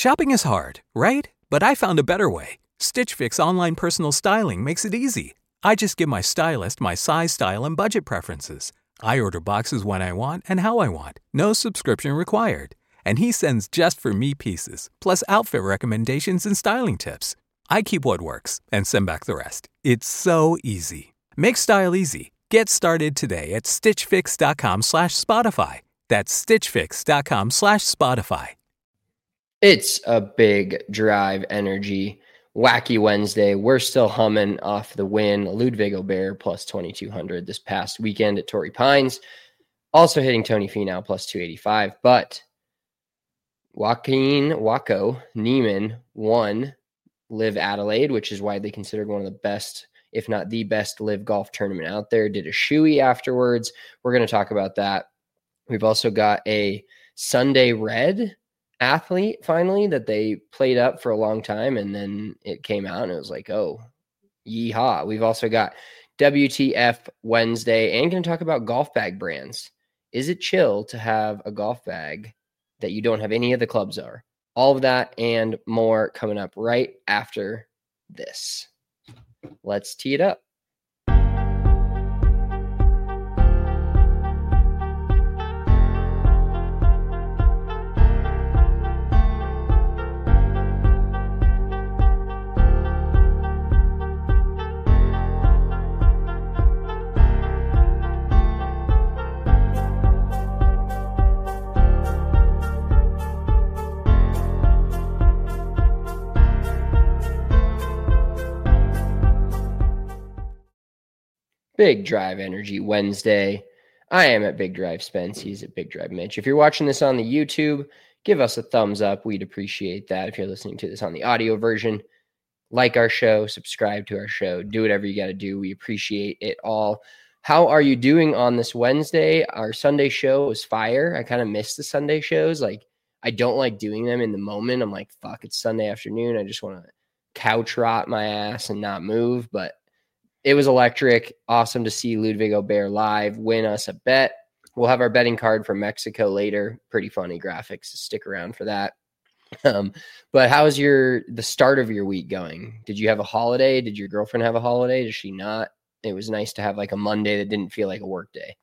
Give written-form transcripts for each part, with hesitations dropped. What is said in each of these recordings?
Shopping is hard, right? But I found a better way. Stitch Fix online personal styling makes it easy. I just give my stylist my size, style, and budget preferences. I order boxes when I want and how I want. No subscription required. And he sends just for me pieces, plus outfit recommendations and styling tips. I keep what works and send back the rest. It's so easy. Make style easy. Get started today at stitchfix.com/Spotify. That's stitchfix.com/Spotify. It's a big drive energy. Wacky Wednesday. We're still humming off the win. Ludwig Aubert plus 2,200 this past weekend at Torrey Pines. Also hitting Tony Finau plus 285. But Joaquin Waco Niemann won Live Adelaide, which is widely considered one of the best, if not the best, live golf tournament out there. Did a shoey afterwards. We're going to talk about that. We've also got a Sunday Red athlete finally that they played up for a long time, and then it came out and it was like, oh, yeehaw. We've also got WTF Wednesday and going to talk about golf bag brands. Is it chill to have a golf bag that you don't have any of the clubs are? All of that and more coming up right after this. Let's tee it up. Big Drive Energy Wednesday. I am at Big Drive Spence. He's at Big Drive Mitch. If you're watching this on the YouTube, give us a thumbs up. We'd appreciate that. If you're listening to this on the audio version, like our show, subscribe to our show, do whatever you got to do. We appreciate it all. How are you doing on this Wednesday? Our Sunday show was fire. I kind of miss the Sunday shows. Like, I don't like doing them in the moment. I'm like, fuck, it's Sunday afternoon. I just want to couch rot my ass and not move. But it was electric. Awesome to see Ludwig Aubert live win us a bet. We'll have our betting card from Mexico later. Pretty funny graphics. So stick around for that. But how's the start of your week going? Did you have a holiday? Did your girlfriend have a holiday? Does she not? It was nice to have like a Monday that didn't feel like a work day.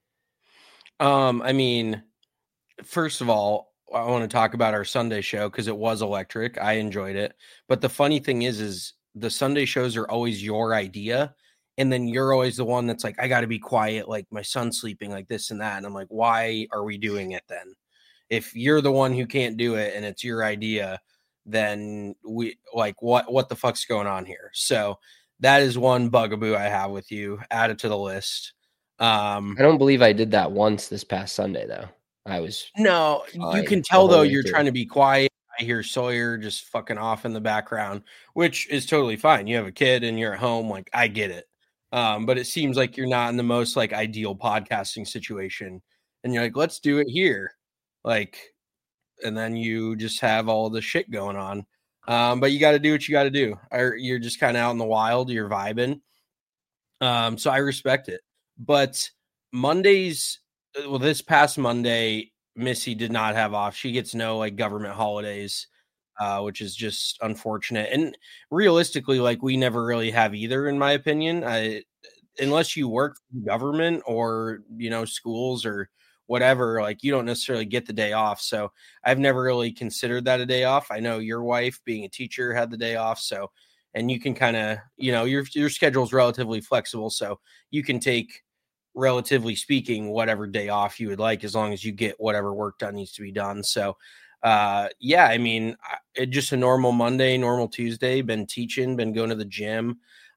I mean, first of all, I want to talk about our Sunday show because it was electric. I enjoyed it. But the funny thing is the Sunday shows are always your idea. And then you're always the one that's like, I got to be quiet. Like my son's sleeping like this and that. And I'm like, why are we doing it then? If you're the one who can't do it and it's your idea, then we like, what the fuck's going on here? So that is one bugaboo I have with you. Add it to the list. I don't believe I did that once this past Sunday though. No, you can tell though you're trying to be quiet. I hear Sawyer just fucking off in the background, which is totally fine. You have a kid and you're at home. Like I get it. But it seems like you're not in the most like ideal podcasting situation and you're like, let's do it here. Like, and then you just have all the shit going on. But you got to do what you got to do. You're just kind of out in the wild. You're vibing. So I respect it, but Mondays, well, this past Monday, Missy did not have off. She gets no like government holidays, which is just unfortunate. And realistically, like we never really have either, in my opinion, unless you work for the government or, schools or whatever, like you don't necessarily get the day off. So I've never really considered that a day off. I know your wife being a teacher had the day off. So, and you can kind of, your schedule is relatively flexible. So you can take, relatively speaking, whatever day off you would like, as long as you get whatever work done needs to be done. So, yeah, I mean, just a normal Monday, normal Tuesday, been teaching, been going to the gym.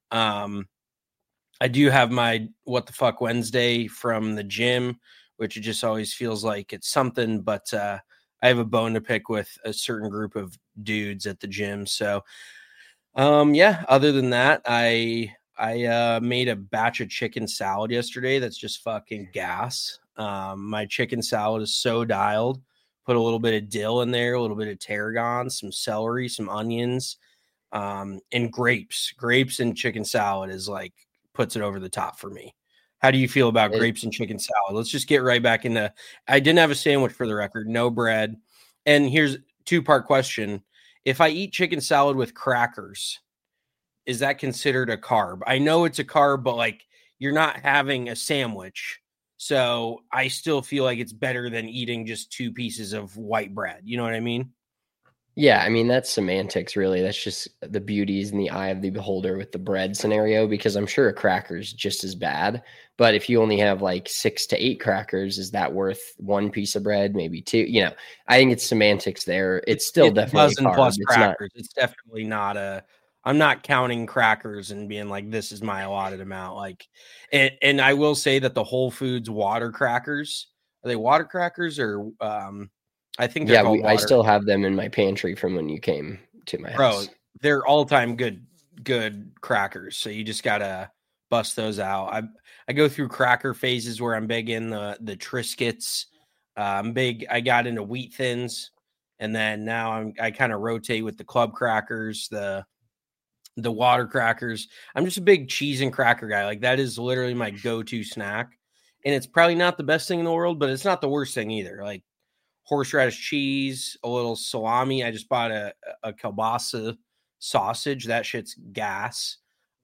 I do have my What the Fuck Wednesday from the gym, which it just always feels like it's something, but, I have a bone to pick with a certain group of dudes at the gym. So, yeah, other than that, I made a batch of chicken salad yesterday. That's just fucking gas. My chicken salad is so dialed. Put a little bit of dill in there, a little bit of tarragon, some celery, some onions, and grapes. Grapes and chicken salad is like puts it over the top for me. How do you feel about grapes and chicken salad? Let's just get right back into. I didn't have a sandwich for the record, no bread. And here's 2-part question. if I eat chicken salad with crackers, is that considered a carb? I know it's a carb, but like you're not having a sandwich. So I still feel like it's better than eating just 2 pieces of white bread. You know what I mean? Yeah, I mean, that's semantics, really. That's just the beauties in the eye of the beholder with the bread scenario, because I'm sure a cracker is just as bad. But if you only have like 6 to 8 crackers, is that worth 1 piece of bread, maybe 2? You know, I think it's semantics there. It's still definitely a dozen plus crackers. It's definitely not I'm not counting crackers and being like, this is my allotted amount. Like, and I will say that the Whole Foods water crackers, are they water crackers or I think they're called water. I still have them in my pantry from when you came to my house. They're all-time good crackers. So you just gotta bust those out. I go through cracker phases where I'm big in the Triscuits. I got into Wheat Thins, and then now I kind of rotate with the club crackers, the water crackers. I'm just a big cheese and cracker guy. Like that is literally my go-to snack. And it's probably not the best thing in the world, but it's not the worst thing either. Like horseradish cheese, a little salami. I just bought a kielbasa sausage. That shit's gas.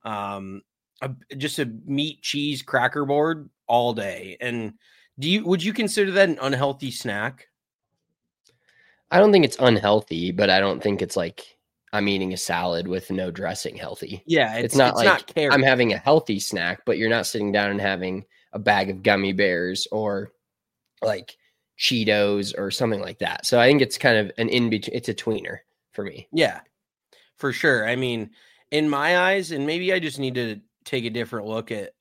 Just a meat cheese cracker board all day. And would you consider that an unhealthy snack? I don't think it's unhealthy, but I don't think it's like I'm eating a salad with no dressing healthy. Yeah, it's not I'm having a healthy snack, but you're not sitting down and having a bag of gummy bears or like Cheetos or something like that. So I think it's kind of an in-between. It's a tweener for me. Yeah, for sure. I mean, in my eyes, and maybe I just need to take a different look at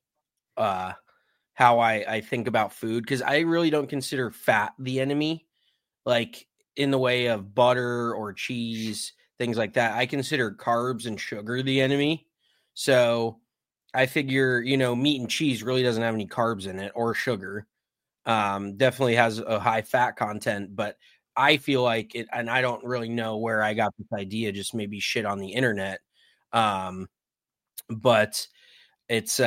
how I think about food, because I really don't consider fat the enemy, like in the way of butter or cheese, things like that. I consider carbs and sugar the enemy. So I figure, meat and cheese really doesn't have any carbs in it or sugar. Definitely has a high fat content, but I feel like it, and I don't really know where I got this idea, just maybe shit on the internet. But it's,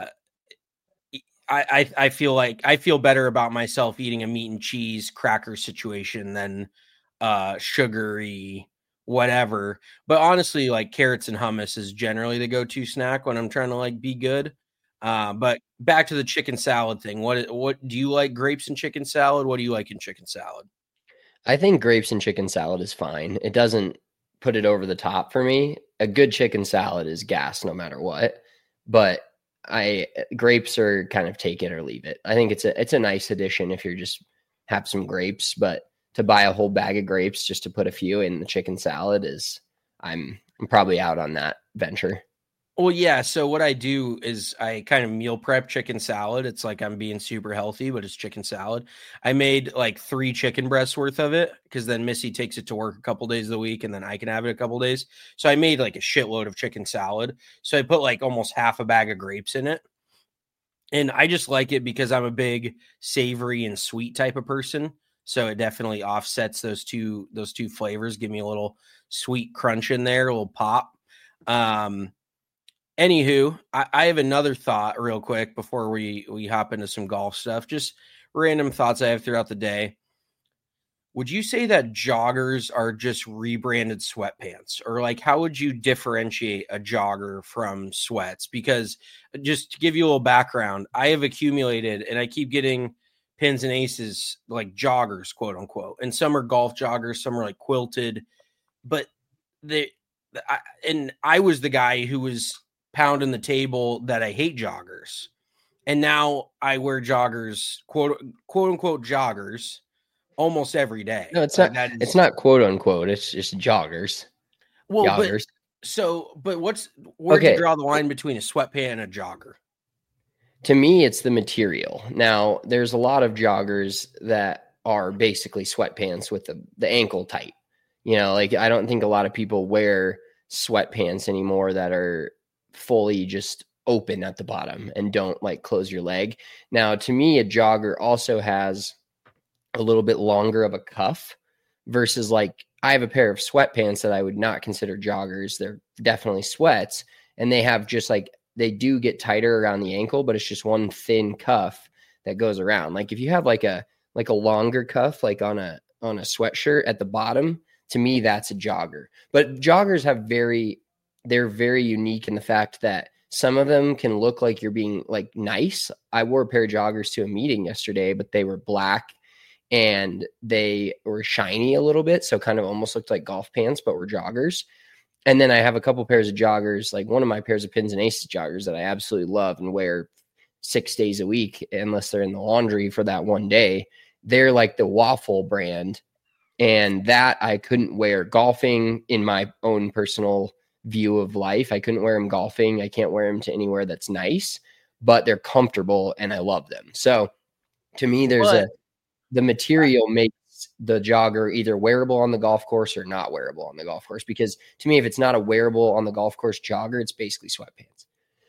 I feel like I feel better about myself eating a meat and cheese cracker situation than sugary whatever. But honestly, like carrots and hummus is generally the go-to snack when I'm trying to like be good. But back to the chicken salad thing. What do you like? Grapes and chicken salad? What do you like in chicken salad? I think grapes and chicken salad is fine. It doesn't put it over the top for me. A good chicken salad is gas no matter what. But grapes are kind of take it or leave it. I think it's a nice addition if you're just have some grapes, but to buy a whole bag of grapes just to put a few in the chicken salad I'm probably out on that venture. Well, yeah. So what I do is I kind of meal prep chicken salad. It's like I'm being super healthy, but it's chicken salad. I made like 3 chicken breasts worth of it because then Missy takes it to work a couple days of the week and then I can have it a couple days. So I made like a shitload of chicken salad. So I put like almost half a bag of grapes in it. And I just like it because I'm a big savory and sweet type of person. So it definitely offsets those two flavors. Give me a little sweet crunch in there, a little pop. Anywho, I have another thought real quick before we hop into some golf stuff. Just random thoughts I have throughout the day. Would you say that joggers are just rebranded sweatpants? Or like, how would you differentiate a jogger from sweats? Because just to give you a little background, I have accumulated and I keep getting pins and aces like joggers, quote unquote. And some are golf joggers, some are like quilted. But I was the guy who was pounding the table that I hate joggers. And now I wear joggers, quote unquote joggers, almost every day. No, it's not. It's not quote unquote. It's just joggers. Well, joggers. But where do you draw the line between a sweatpant and a jogger? To me, it's the material. Now, there's a lot of joggers that are basically sweatpants with the ankle tight. Like I don't think a lot of people wear sweatpants anymore that are fully just open at the bottom and don't like close your leg. Now, to me, a jogger also has a little bit longer of a cuff versus like I have a pair of sweatpants that I would not consider joggers. They're definitely sweats, and they have just like, they do get tighter around the ankle, but it's just one thin cuff that goes around. Like if you have like a longer cuff, like on a sweatshirt at the bottom, To me, that's a jogger. But joggers they're very unique in the fact that some of them can look like you're being like nice. I wore a pair of joggers to a meeting yesterday, but they were black and they were shiny a little bit. So kind of almost looked like golf pants, but were joggers. And then I have a couple pairs of joggers, like one of my pairs of Pins and Aces joggers that I absolutely love and wear 6 days a week, unless they're in the laundry for that one day. They're like the Waffle brand. And that I couldn't wear golfing in my own personal view of life. I couldn't wear them golfing. I can't wear them to anywhere that's nice, but they're comfortable and I love them. So to me, the material makes the jogger either wearable on the golf course or not wearable on the golf course. Because to me, if it's not a wearable on the golf course jogger, it's basically sweatpants.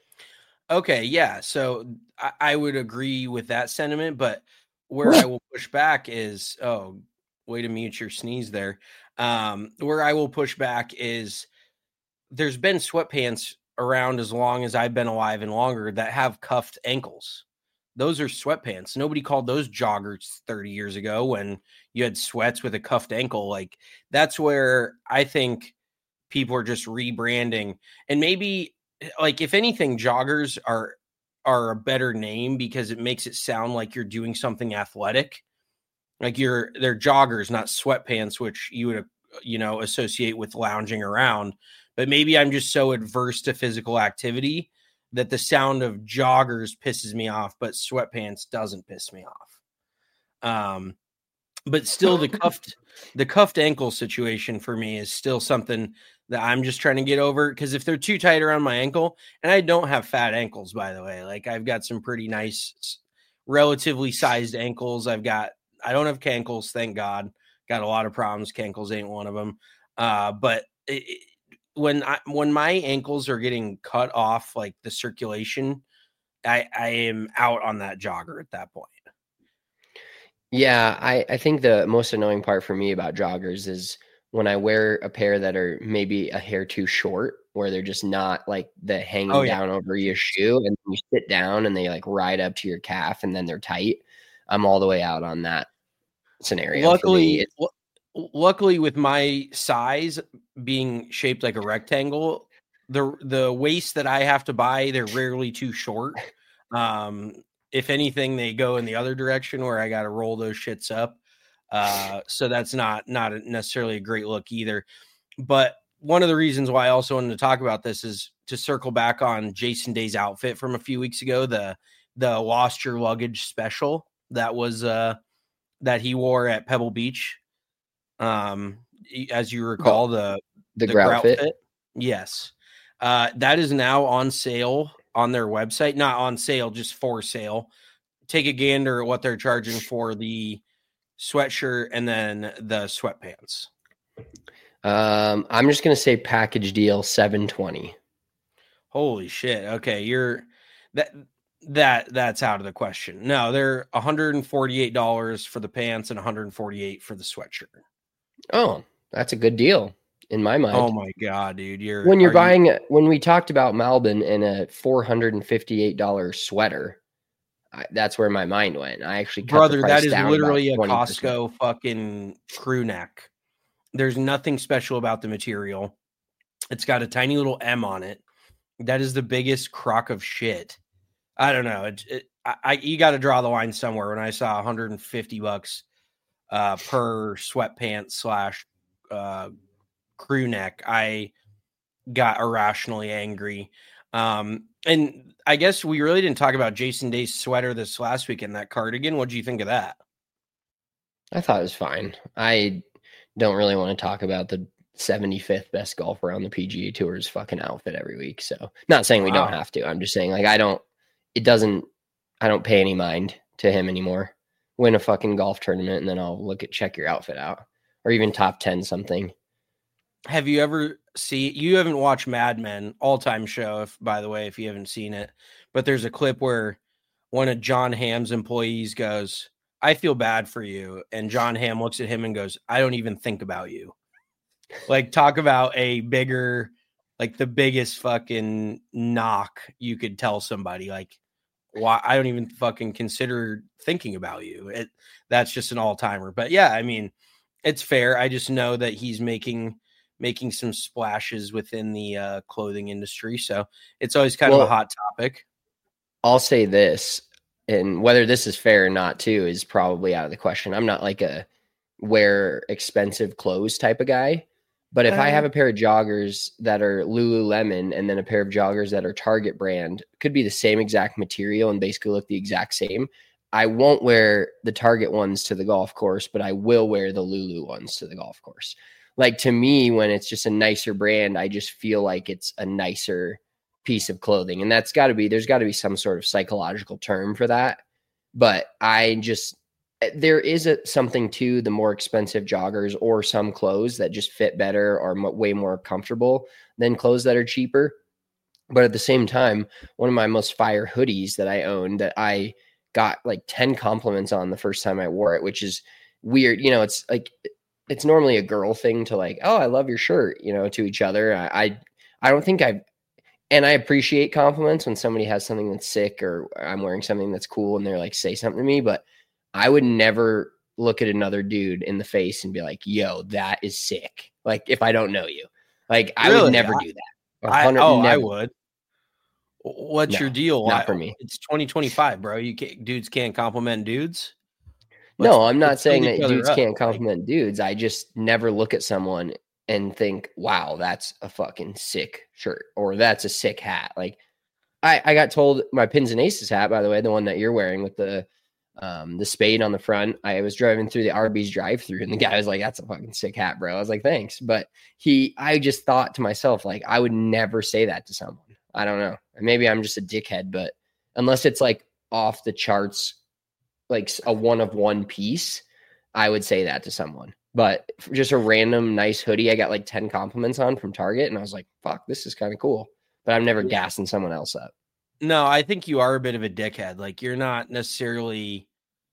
Okay. Yeah. So I would agree with that sentiment, but where I will push back is, way to mute your sneeze there. Where I will push back is there's been sweatpants around as long as I've been alive and longer that have cuffed ankles. Those are sweatpants. Nobody called those joggers 30 years ago when you had sweats with a cuffed ankle. Like that's where I think people are just rebranding. And maybe like, if anything, joggers are a better name because it makes it sound like you're doing something athletic. Like they're joggers, not sweatpants, which you would, associate with lounging around. But maybe I'm just so adverse to physical activity that the sound of joggers pisses me off, but sweatpants doesn't piss me off. But still the cuffed ankle situation for me is still something that I'm just trying to get over, because if they're too tight around my ankle, and I don't have fat ankles, by the way, like I've got some pretty nice, relatively sized ankles. I don't have cankles, thank God. Got a lot of problems. Cankles ain't one of them. But when my ankles are getting cut off, like the circulation, I am out on that jogger at that point. Yeah, I think the most annoying part for me about joggers is when I wear a pair that are maybe a hair too short, where they're just not like the hanging down over your shoe, and you sit down and they like ride up to your calf and then they're tight. I'm all the way out on that scenario. Luckily with my size being shaped like a rectangle, the waist that I have to buy, they're rarely too short. If anything, they go in the other direction where I got to roll those shits up. So that's not necessarily a great look either. But one of the reasons why I also wanted to talk about this is to circle back on Jason Day's outfit from a few weeks ago, the Lost Your Luggage special that was that he wore at Pebble Beach. As you recall, the grout fit. Yes. That is now on sale on their website. Not on sale, just for sale. Take a gander at what they're charging for the sweatshirt and then the sweatpants. I'm just going to say package deal $720. Holy shit. Okay. That's out of the question. No, they're $148 for the pants and $148 for the sweatshirt. Oh, that's a good deal in my mind. Oh my God, dude. When we talked about Malbon and a $458 sweater, that's where my mind went. I actually cut the price down. That is literally a Costco fucking crew neck. There's nothing special about the material. It's got a tiny little M on it. That is the biggest crock of shit. I don't know. You got to draw the line somewhere. When I saw $150 per sweatpants / crew neck, I got irrationally angry. And I guess we really didn't talk about Jason Day's sweater this last weekend, that cardigan. What do you think of that? I thought it was fine. I don't really want to talk about the 75th best golfer on the PGA Tour's fucking outfit every week. So not saying we don't have to. I'm just saying like I don't pay any mind to him anymore. Win a fucking golf tournament and then I'll check your outfit out, or even top 10 something. Have you ever you haven't watched Mad Men, all-time show, by the way, if you haven't seen it, but there's a clip where one of John Hamm's employees goes, "I feel bad for you." And John Hamm looks at him and goes, "I don't even think about you." Like, talk about a bigger, like the biggest fucking knock you could tell somebody. Like, why? I don't even fucking consider thinking about you. That's just an all-timer. But yeah, I mean, It's fair. I just know that he's making some splashes within the clothing industry. So it's always kind of a hot topic. I'll say this, and whether this is fair or not too is probably out of the question. I'm not like a wear expensive clothes type of guy, but if I have a pair of joggers that are Lululemon and then a pair of joggers that are Target brand, could be the same exact material and basically look the exact same. I won't wear the Target ones to the golf course, but I will wear the Lulu ones to the golf course. Like, to me, when it's just a nicer brand, I just feel like it's a nicer piece of clothing. And there's got to be some sort of psychological term for that. But there is something to the more expensive joggers or some clothes that just fit better or way more comfortable than clothes that are cheaper. But at the same time, one of my most fire hoodies that I own that I got like 10 compliments on the first time I wore it, which is weird. It's like, it's normally a girl thing to like, oh, I love your shirt, to each other. I don't think and I appreciate compliments when somebody has something that's sick or I'm wearing something that's cool and they're like, say something to me, but I would never look at another dude in the face and be like, yo, that is sick. Like, if I don't know you, like, I would never do that. I would. What's your deal? Not for me. It's 2025, bro. Dudes can't compliment dudes. No, I'm not saying that dudes can't compliment dudes. I just never look at someone and think, wow, that's a fucking sick shirt or that's a sick hat. Like, I got told my Pins and Aces hat, by the way, the one that you're wearing with the spade on the front. I was driving through the Arby's drive-thru and the guy was like, that's a fucking sick hat, bro. I was like, thanks. But I just thought to myself, like, I would never say that to someone. I don't know. Maybe I'm just a dickhead, but unless it's like off the charts, like a one of one piece, I would say that to someone. But just a random nice hoodie, I got like 10 compliments on from Target, and I was like, fuck, this is kind of cool. But I'm never gassing someone else up. No, I think you are a bit of a dickhead. Like, you're not necessarily.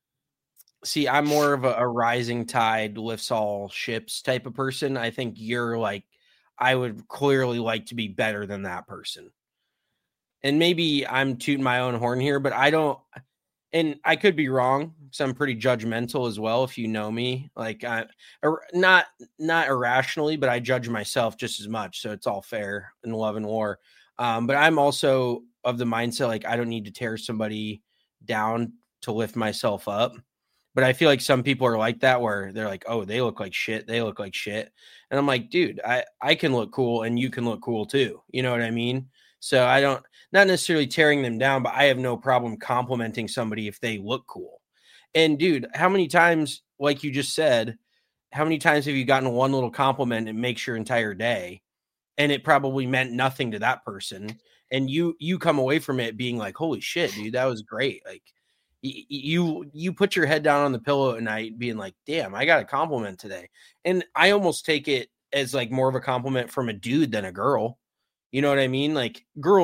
See, I'm more of a rising tide lifts all ships type of person. I think you're like, I would clearly like to be better than that person. And maybe I'm tooting my own horn here, but I don't, and I could be wrong because I'm pretty judgmental as well. If you know me, like, not irrationally, but I judge myself just as much. So it's all fair in love and war. But I'm also of the mindset, like, I don't need to tear somebody down to lift myself up. But I feel like some people are like that, where they're like, oh, they look like shit. They look like shit. And I'm like, dude, I can look cool and you can look cool too. You know what I mean? So not necessarily tearing them down, but I have no problem complimenting somebody if they look cool. And dude, how many times, like you just said, how many times have you gotten one little compliment and makes your entire day? And it probably meant nothing to that person. And you come away from it being like, holy shit, dude, that was great. Like, you put your head down on the pillow at night being like, damn, I got a compliment today. And I almost take it as like more of a compliment from a dude than a girl. You know what I mean? Like,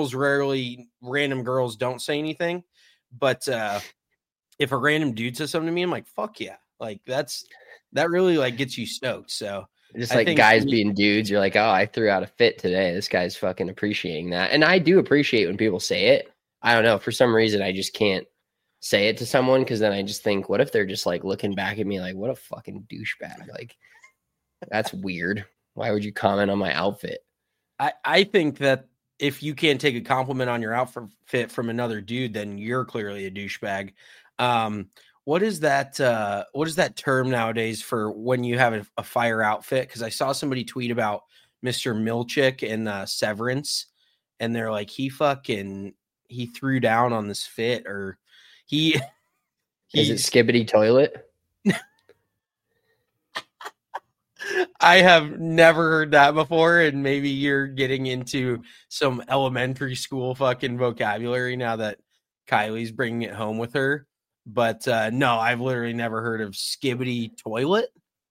random girls don't say anything, but if a random dude says something to me, I'm like, fuck yeah. Like, that really like gets you stoked. So just like guys being dudes, you're like, oh, I threw out a fit today. This guy's fucking appreciating that. And I do appreciate when people say it. I don't know. For some reason, I just can't say it to someone, because then I just think, what if they're just like looking back at me like, what a fucking douchebag? Like, that's weird. Why would you comment on my outfit? I think that if you can't take a compliment on your outfit from another dude, then you're clearly a douchebag. What is that term nowadays for when you have a fire outfit? Because I saw somebody tweet about Mr. Milchick and Severance, and they're like, he threw down on this fit, or is it Skibbity Toilet? I have never heard that before, and maybe you're getting into some elementary school fucking vocabulary now that Kylie's bringing it home with her. But no, I've literally never heard of Skibbity Toilet.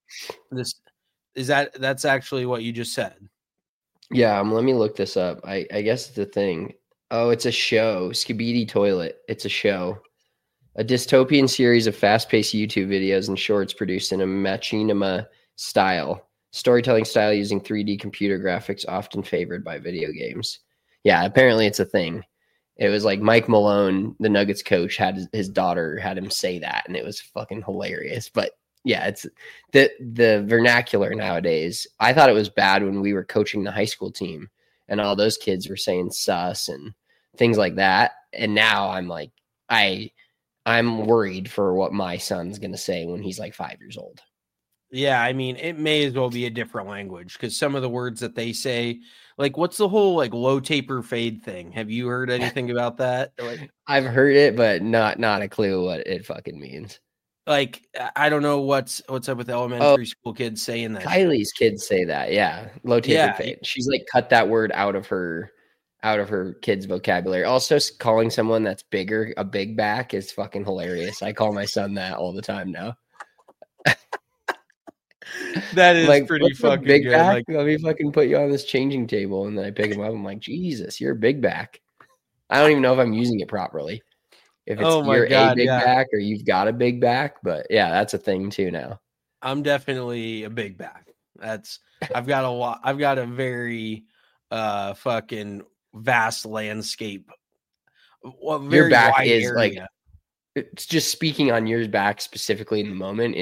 That's actually what you just said? Yeah, let me look this up. I guess it's a thing. Oh, it's a show. Skibbity Toilet. It's a show. A dystopian series of fast-paced YouTube videos and shorts produced in a machinima storytelling style using 3D computer graphics, often favored by video games. Yeah, apparently it's a thing. It was like Mike Malone, the Nuggets coach, had his daughter had him say that, and it was fucking hilarious. But Yeah, it's the vernacular nowadays. I thought it was bad when we were coaching the high school team and all those kids were saying sus and things like that. And now I'm like, I'm worried for what my son's going to say when he's like 5 years old. Yeah, I mean, it may as well be a different language because some of the words that they say, like, what's the whole like low taper fade thing? Have you heard anything about that? Like, I've heard it, but not a clue what it fucking means. Like, I don't know what's up with elementary school kids saying that. Kylie's kids say that, yeah, low taper fade. She's like cut that word out of her kids' vocabulary. Also, calling someone that's bigger a big back is fucking hilarious. I call my son that all the time now. That is like, pretty fucking big good. Back? Like, let me fucking put you on this changing table, and then I pick him up. I'm like, Jesus, you're a big back. I don't even know if I'm using it properly. If it's you're a big back or you've got a big back, but yeah, that's a thing too now. I'm definitely a big back. I've got a lot. I've got a very fucking vast landscape. Your back is area. Like. It's just speaking on your back specifically in the moment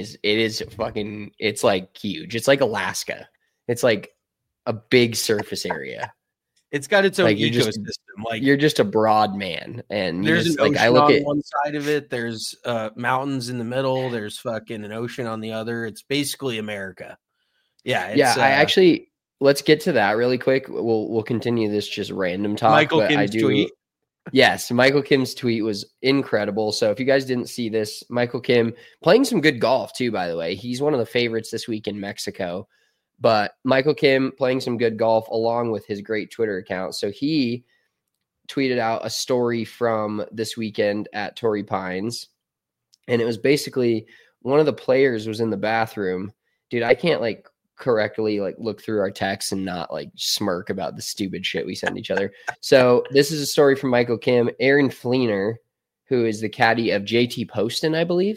it's like huge. It's like Alaska. It's like a big surface area. It's got its own ecosystem. You're just a broad man, and there's an ocean on one side of it. There's mountains in the middle. There's fucking an ocean on the other. It's basically America. Yeah. I actually let's get to that really quick. We'll continue this just random talk. Michael Kim's tweet. Yes, Michael Kim's tweet was incredible. So if you guys didn't see this, Michael Kim playing some good golf too, by the way. He's one of the favorites this week in Mexico. But Michael Kim playing some good golf along with his great Twitter account. So he tweeted out a story from this weekend at Torrey Pines. And it was basically one of the players was in the bathroom. Dude, I can't like correctly like look through our texts and not like smirk about the stupid shit we send each other. So this is a story from Michael Kim. Aaron Fleener, who is the caddy of JT Poston, I believe.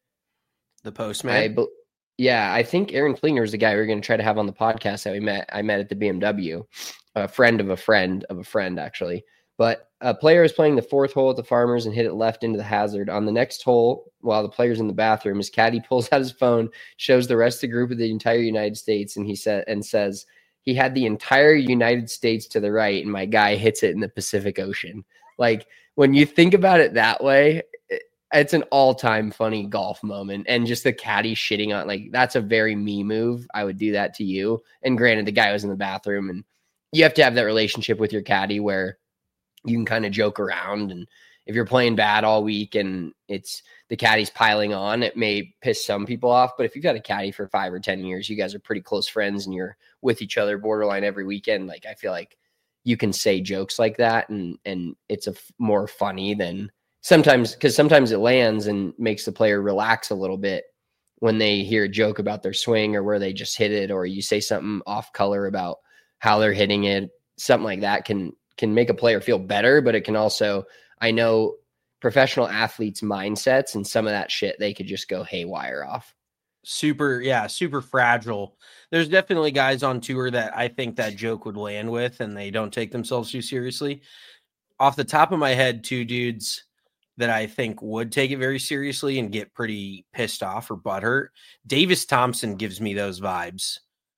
The Postman. I think Aaron Fleener is the guy we were going to try to have on the podcast that I met at the BMW, a friend of a friend of a friend, actually. But a player is playing the fourth hole at the Farmers and hit it left into the hazard. On the next hole, while the player's in the bathroom, his caddy pulls out his phone, shows the rest of the group of the entire United States, and says he had the entire United States to the right, and my guy hits it in the Pacific Ocean. Like, when you think about it that way, it's an all-time funny golf moment. And just the caddy shitting on, like, that's a very me move. I would do that to you. And granted, the guy was in the bathroom, and you have to have that relationship with your caddy where you can kind of joke around. And if you're playing bad all week and it's the caddy's piling on, it may piss some people off. But if you've got a caddy for 5 or 10 years, you guys are pretty close friends and you're with each other borderline every weekend. Like, I feel like you can say jokes like that and it's more funny than sometimes, because sometimes it lands and makes the player relax a little bit when they hear a joke about their swing or where they just hit it, or you say something off color about how they're hitting it. Something like that can make a player feel better, but it can also, I know professional athletes' mindsets and some of that shit, they could just go haywire off. Super fragile. There's definitely guys on tour that I think that joke would land with and they don't take themselves too seriously. Off the top of my head, two dudes that I think would take it very seriously and get pretty pissed off or butthurt. Davis Thompson gives me those vibes.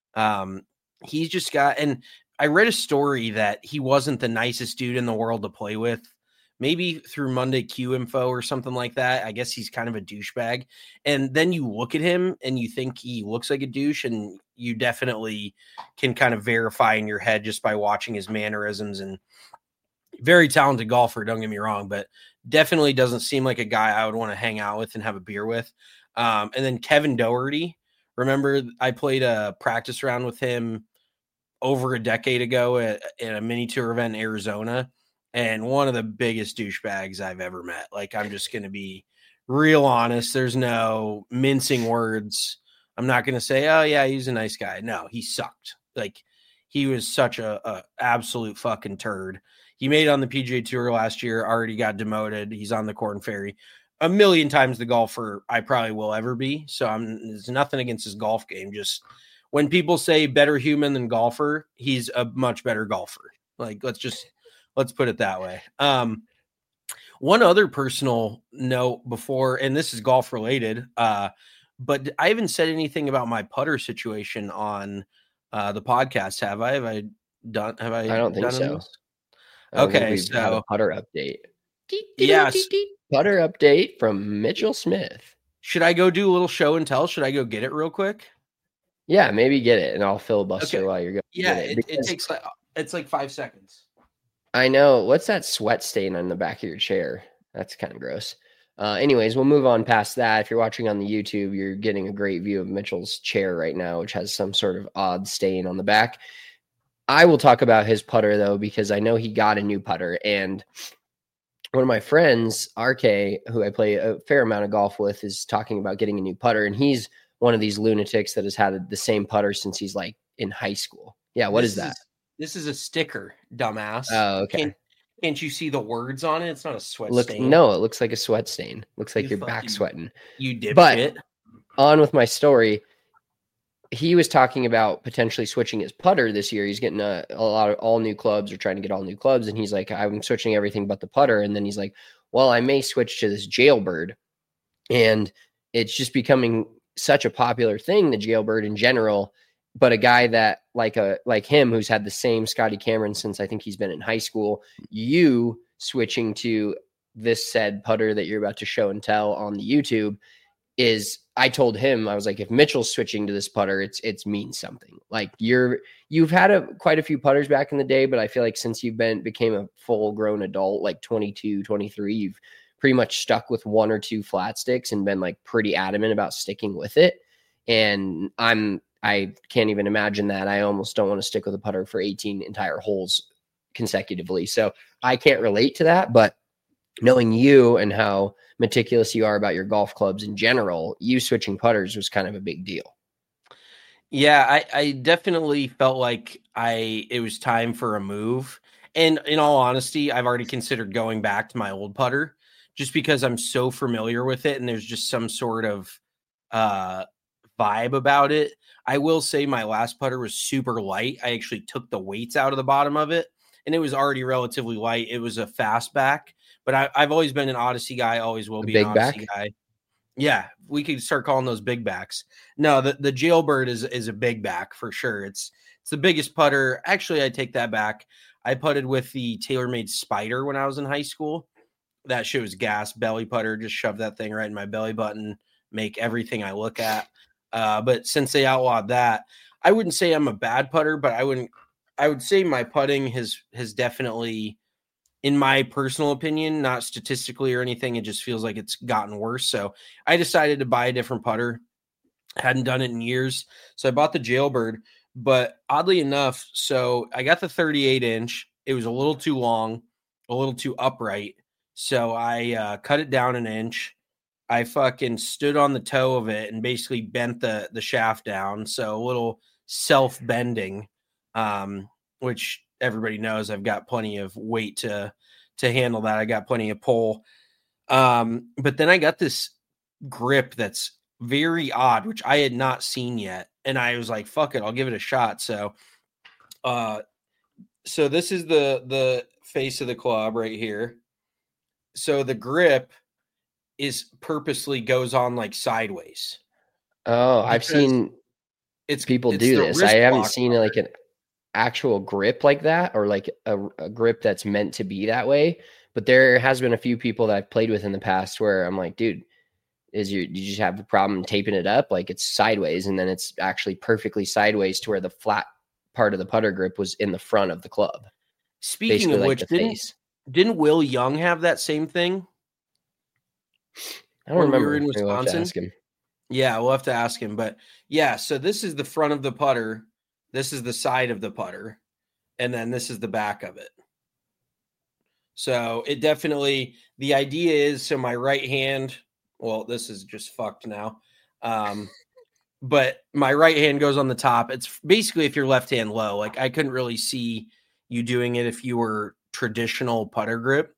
He's just got, and I read a story that he wasn't the nicest dude in the world to play with, maybe through Monday Q Info or something like that. I guess he's kind of a douchebag. And then you look at him and you think he looks like a douche, and you definitely can kind of verify in your head just by watching his mannerisms. And very talented golfer, don't get me wrong, but definitely doesn't seem like a guy I would want to hang out with and have a beer with. And then Kevin Doherty, remember I played a practice round with him over a decade ago at a mini tour event in Arizona, and one of the biggest douchebags I've ever met. Like, I'm just going to be real honest. There's no mincing words. I'm not going to say, oh yeah, he's a nice guy. No, he sucked. Like, he was such a absolute fucking turd. He made it on the PGA Tour last year, already got demoted. He's on the Korn Ferry. A million times the golfer I probably will ever be. So there's nothing against his golf game. Just when people say better human than golfer, he's a much better golfer. Like, let's put it that way. One other personal note before, and this is golf related. But I haven't said anything about my putter situation on the podcast. Have I? Have I done? Have I? I don't think so. Okay, we've had a putter update. Yes, putter update from Mitchell Smith. Should I go do a little show and tell? Should I go get it real quick? Yeah, maybe get it, and I'll filibuster while you're going. Yeah, it takes it's like 5 seconds. I know. What's that sweat stain on the back of your chair? That's kind of gross. Anyways, we'll move on past that. If you're watching on the YouTube, you're getting a great view of Mitchell's chair right now, which has some sort of odd stain on the back. I will talk about his putter, though, because I know he got a new putter. And one of my friends, RK, who I play a fair amount of golf with, is talking about getting a new putter. And he's one of these lunatics that has had the same putter since he's like in high school. Yeah, what is that? This is a sticker, dumbass. Oh, okay. Can't you see the words on it? It's not a sweat stain. No, it looks like a sweat stain. Looks like you're back sweating. You dipshit. But on with my story, he was talking about potentially switching his putter this year. He's getting a lot of all new clubs, or trying to get all new clubs. And he's like, I'm switching everything but the putter. And then he's like, well, I may switch to this Jailbird. And it's just becoming such a popular thing, the Jailbird in general. But a guy that like him, who's had the same Scotty Cameron since I think he's been in high school, you switching to this said putter that you're about to show and tell on the YouTube is, I told him, I was like, if Mitchell's switching to this putter, it's means something. Like you've had quite a few putters back in the day, but I feel like since you've became a full grown adult, like 22, 23, you've pretty much stuck with one or two flat sticks and been like pretty adamant about sticking with it. And I can't even imagine that. I almost don't want to stick with a putter for 18 entire holes consecutively. So I can't relate to that, but knowing you and how meticulous you are about your golf clubs in general, you switching putters was kind of a big deal. Yeah, I definitely felt like it was time for a move. And in all honesty, I've already considered going back to my old putter just because I'm so familiar with it and there's just some sort of vibe about it. I will say my last putter was super light. I actually took the weights out of the bottom of it and it was already relatively light. It was a fastback, but I've always been an Odyssey guy, always will be an Odyssey guy. Yeah, we could start calling those big backs. No, the Jailbird is a big back for sure. It's the biggest putter. Actually, I take that back. I putted with the TaylorMade Spider when I was in high school. That shit was gas, belly putter. Just shove that thing right in my belly button, make everything I look at. But since they outlawed that, I wouldn't say I'm a bad putter, but I would say my putting has definitely, in my personal opinion, not statistically or anything, it just feels like it's gotten worse. So I decided to buy a different putter. Hadn't done it in years. So I bought the Jailbird, but oddly enough, so I got the 38-inch. It was a little too long, a little too upright. So I cut it down an inch. I fucking stood on the toe of it and basically bent the shaft down. So a little self-bending, which everybody knows I've got plenty of weight to handle that. I got plenty of pull. But then I got this grip that's very odd, which I had not seen yet. And I was like, fuck it, I'll give it a shot. So this is the face of the club right here. So the grip is purposely goes on like sideways. Oh, I've seen people do this. I haven't seen like an actual grip like that, or like a grip that's meant to be that way. But there has been a few people that I've played with in the past where I'm like, dude, did you just have a problem taping it up? Like it's sideways, and then it's actually perfectly sideways to where the flat part of the putter grip was in the front of the club. Speaking of which, didn't Will Young have that same thing? I don't remember. We were in Wisconsin. Yeah, we'll have to ask him. But yeah, so this is the front of the putter. This is the side of the putter. And then this is the back of it. So it definitely, the idea is, so my right hand, well, this is just fucked now. But my right hand goes on the top. It's basically if you're left hand low, like I couldn't really see you doing it if you were traditional putter grip.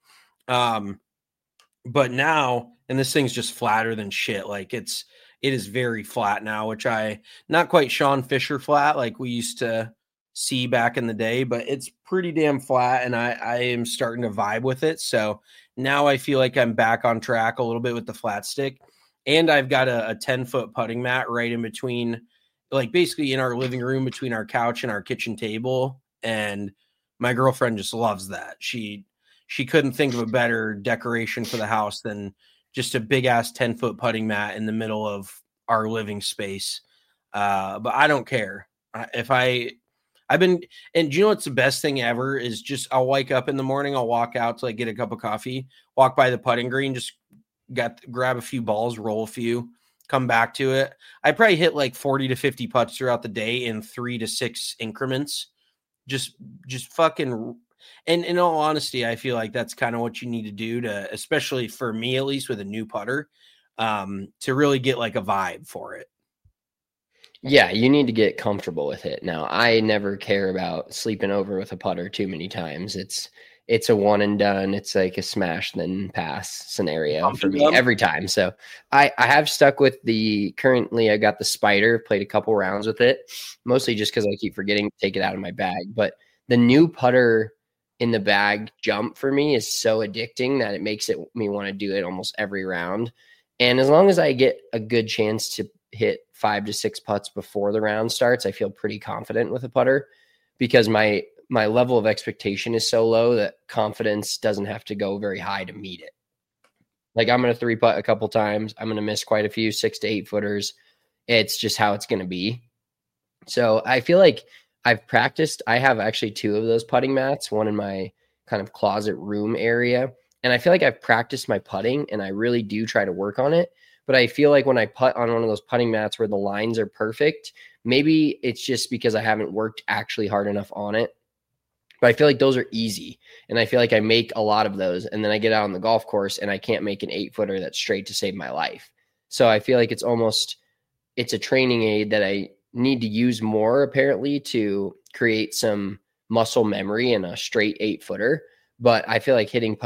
But now, and this thing's just flatter than shit. Like it is very flat now, which not quite Sean Fisher flat like we used to see back in the day, but it's pretty damn flat, and I am starting to vibe with it. So now I feel like I'm back on track a little bit with the flat stick. And I've got a 10-foot putting mat right in between, like basically in our living room between our couch and our kitchen table. And my girlfriend just loves that. She couldn't think of a better decoration for the house than just a big ass 10-foot putting mat in the middle of our living space. But I don't care. I've been, and do you know what's the best thing ever is just, I'll wake up in the morning, I'll walk out to like get a cup of coffee, walk by the putting green, just grab a few balls, roll a few, come back to it. I probably hit like 40 to 50 putts throughout the day in 3 to 6 increments. Just fucking, and in all honesty, I feel like that's kind of what you need to do to, especially for me, at least with a new putter, to really get like a vibe for it. Yeah, you need to get comfortable with it. Now, I never care about sleeping over with a putter too many times. It's a one and done. It's like a smash then pass scenario for me every time. So I have stuck with currently I got the Spider, played a couple rounds with it, mostly just because I keep forgetting to take it out of my bag. But the new putter in the bag jump for me is so addicting that it makes me want to do it almost every round. And as long as I get a good chance to hit 5 to 6 putts before the round starts, I feel pretty confident with a putter because my level of expectation is so low that confidence doesn't have to go very high to meet it. Like I'm going to 3-putt a couple times. I'm going to miss quite a few 6 to 8 footers. It's just how it's going to be. So I feel like I've practiced. I have actually 2 of those putting mats, one in my kind of closet room area. And I feel like I've practiced my putting and I really do try to work on it. But I feel like when I putt on one of those putting mats where the lines are perfect, maybe it's just because I haven't worked actually hard enough on it. But I feel like those are easy. And I feel like I make a lot of those. And then I get out on the golf course and I can't make an 8-footer that's straight to save my life. So I feel like it's a training aid that I need to use more apparently to create some muscle memory in a straight 8-footer. But I feel like hitting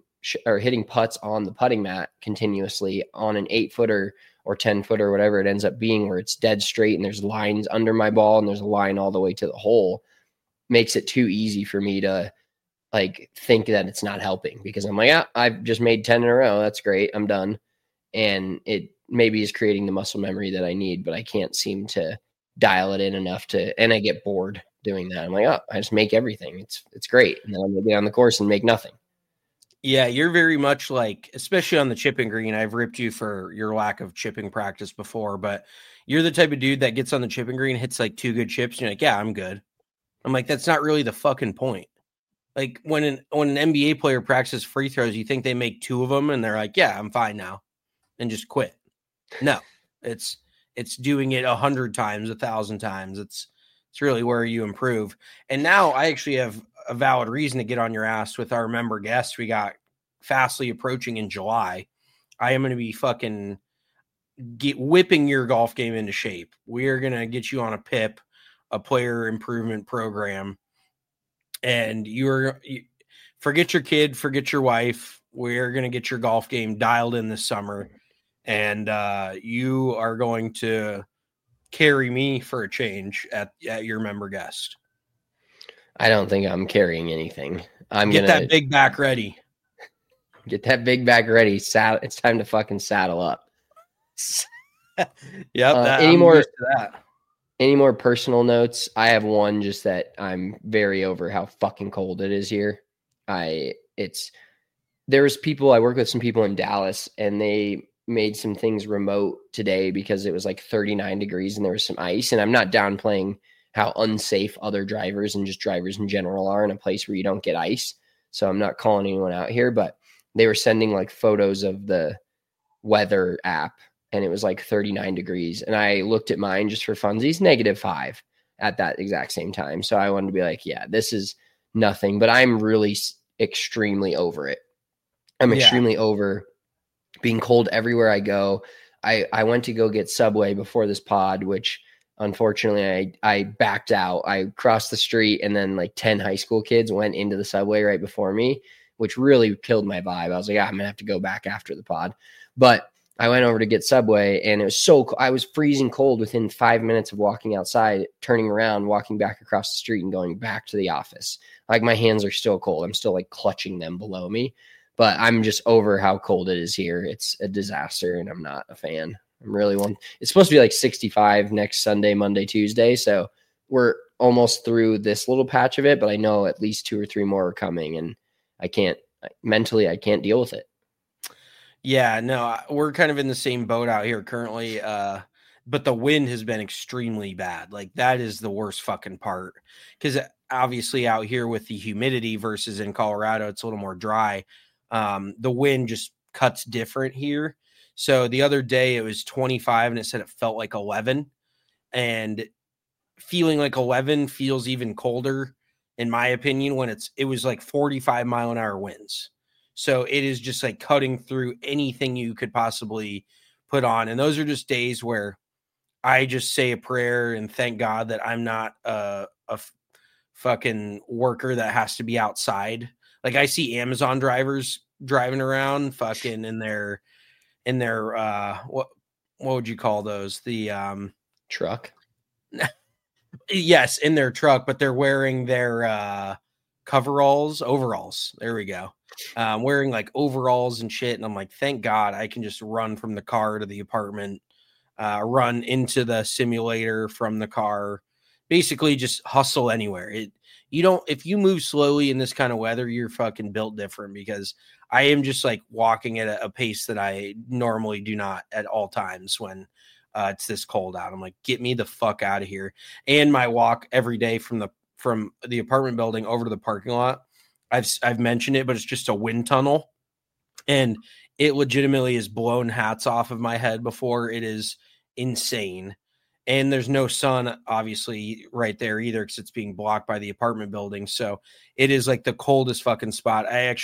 putts on the putting mat continuously on an 8-footer or 10-footer, whatever it ends up being, where it's dead straight and there's lines under my ball and there's a line all the way to the hole, makes it too easy for me to like think that it's not helping because I'm like, yeah, I've just made 10 in a row. That's great. I'm done. And it maybe is creating the muscle memory that I need, but I can't seem to dial it in enough and I get bored doing that. I'm like, oh, I just make everything. It's great. And then I'm going to get on the course and make nothing. Yeah, you're very much like, especially on the chipping green, I've ripped you for your lack of chipping practice before, but you're the type of dude that gets on the chipping green, hits like 2 good chips, and you're like, yeah, I'm good. I'm like, that's not really the fucking point. Like when an NBA player practices free throws, you think they make 2 of them and they're like, yeah, I'm fine now, and just quit. No, it's doing it 100 times, 1,000 times. It's really where you improve. And now I actually have a valid reason to get on your ass with our member guests we got fastly approaching in July. I am going to be fucking whipping your golf game into shape. We are going to get you on a PIP, a player improvement program, and you forget your kid, forget your wife. We're going to get your golf game dialed in this summer, and you are going to carry me for a change at your member guest. I don't think I'm carrying anything. Get that big back ready. Get that big back ready. It's time to fucking saddle up. Yep. Any more personal notes? I have one just that I'm very over how fucking cold it is here. I work with some people in Dallas and they made some things remote today because it was like 39 degrees and there was some ice. And I'm not downplaying how unsafe other drivers and just drivers in general are in a place where you don't get ice. So I'm not calling anyone out here, but they were sending like photos of the weather app and it was like 39 degrees. And I looked at mine just for funsies, -5 at that exact same time. So I wanted to be like, yeah, this is nothing, but I'm really extremely over it. I'm extremely over being cold everywhere I go. I went to go get Subway before this pod, which unfortunately I backed out. I crossed the street and then like 10 high school kids went into the Subway right before me, which really killed my vibe. I was like, I'm going to have to go back after the pod. But I went over to get Subway and it was I was freezing cold within 5 minutes of walking outside, turning around, walking back across the street and going back to the office. Like my hands are still cold. I'm still like clutching them below me. but I'm just over how cold it is here. It's a disaster, and I'm not a fan. It's supposed to be like 65 next Sunday, Monday, Tuesday. So we're almost through this little patch of it, but I know at least 2 or 3 more are coming, and I can't deal with it. Yeah, no, we're kind of in the same boat out here currently. But the wind has been extremely bad. Like, that is the worst fucking part. Because obviously out here with the humidity versus in Colorado, it's a little more dry. The wind just cuts different here. So the other day it was 25 and it said it felt like 11. And feeling like 11 feels even colder, in my opinion, when it was like 45 mile an hour winds. So it is just like cutting through anything you could possibly put on. And those are just days where I just say a prayer and thank God that I'm not a fucking worker that has to be outside. Like, I see Amazon drivers driving around fucking in their what would you call those? The truck. Yes, in their truck, but they're wearing their overalls. There we go. Wearing like overalls and shit. And I'm like, thank God I can just run from the car to the apartment, run into the simulator from the car, basically just hustle anywhere. If you move slowly in this kind of weather, you're fucking built different, because I am just like walking at a pace that I normally do not at all times when it's this cold out. I'm like, get me the fuck out of here. And my walk every day from the apartment building over to the parking lot, I've mentioned it, but it's just a wind tunnel, and it legitimately has blown hats off of my head before. It is insane. And there's no sun, obviously, right there either, because it's being blocked by the apartment building. So it is like the coldest fucking spot.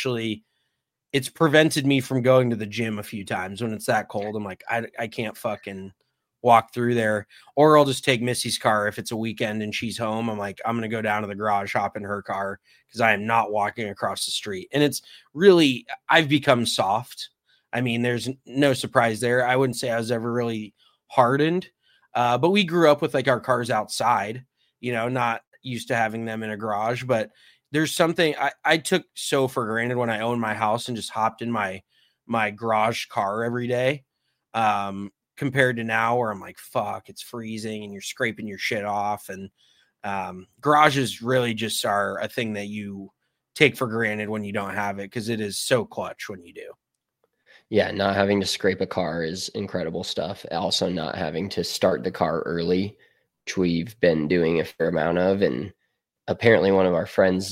It's prevented me from going to the gym a few times when it's that cold. I'm like, I can't fucking walk through there. Or I'll just take Missy's car if it's a weekend and she's home. I'm like, I'm going to go down to the garage, hop in her car, because I am not walking across the street. And it's really, I've become soft. I mean, there's no surprise there. I wouldn't say I was ever really hardened. But we grew up with like our cars outside, not used to having them in a garage. But there's something I took so for granted when I owned my house and just hopped in my garage car every day, compared to now where I'm like, fuck, it's freezing and you're scraping your shit off. And garages really just are a thing that you take for granted when you don't have it, because it is so clutch when you do. Yeah, not having to scrape a car is incredible stuff. Also, not having to start the car early, which we've been doing a fair amount of. And apparently one of our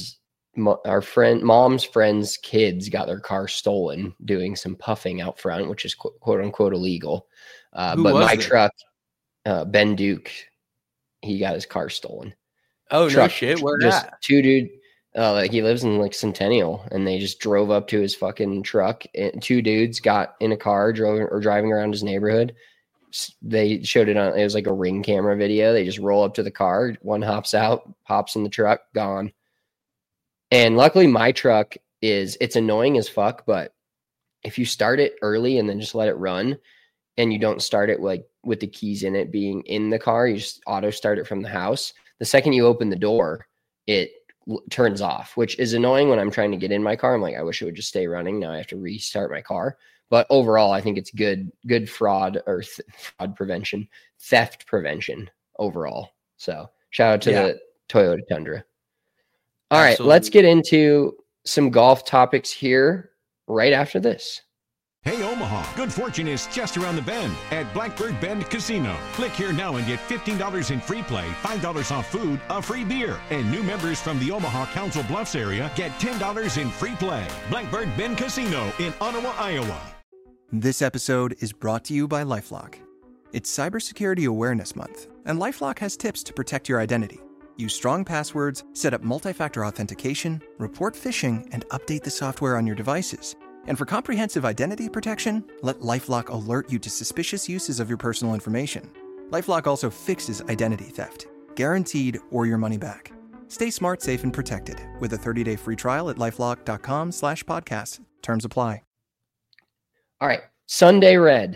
mom's friend's kids got their car stolen doing some puffing out front, which is quote unquote illegal. But my truck, Ben Duke, he got his car stolen. Oh, no shit. Where just at? 2 dude. Like, he lives in like Centennial, and they just drove up to his fucking truck, and 2 dudes got in a car, driving around his neighborhood. They showed it on, it was like a Ring camera video. They just roll up to the car. One hops out, pops in the truck, gone. And luckily my truck it's annoying as fuck, but if you start it early and then just let it run, and you don't start it like with the keys in it being in the car, you just auto start it from the house. The second you open the door, it turns off, which is annoying when I'm trying to get in my car. I'm like, I wish it would just stay running. Now I have to restart my car. But overall, I think it's good fraud or fraud prevention, theft prevention overall. So shout out to the Toyota Tundra. All right, let's get into some golf topics here right after this. Hey, Omaha, good fortune is just around the bend at Blackbird Bend Casino. Click here now and get $15 in free play, $5 off food, a free beer. And new members from the Omaha Council Bluffs area get $10 in free play. Blackbird Bend Casino in Ottawa, Iowa. This episode is brought to you by LifeLock. It's Cybersecurity Awareness Month, and LifeLock has tips to protect your identity. Use strong passwords, set up multi-factor authentication, report phishing, and update the software on your devices. And for comprehensive identity protection, let LifeLock alert you to suspicious uses of your personal information. LifeLock also fixes identity theft, guaranteed or your money back. Stay smart, safe, and protected with a 30-day free trial at LifeLock.com/podcast. Terms apply. All right, Sunday Red.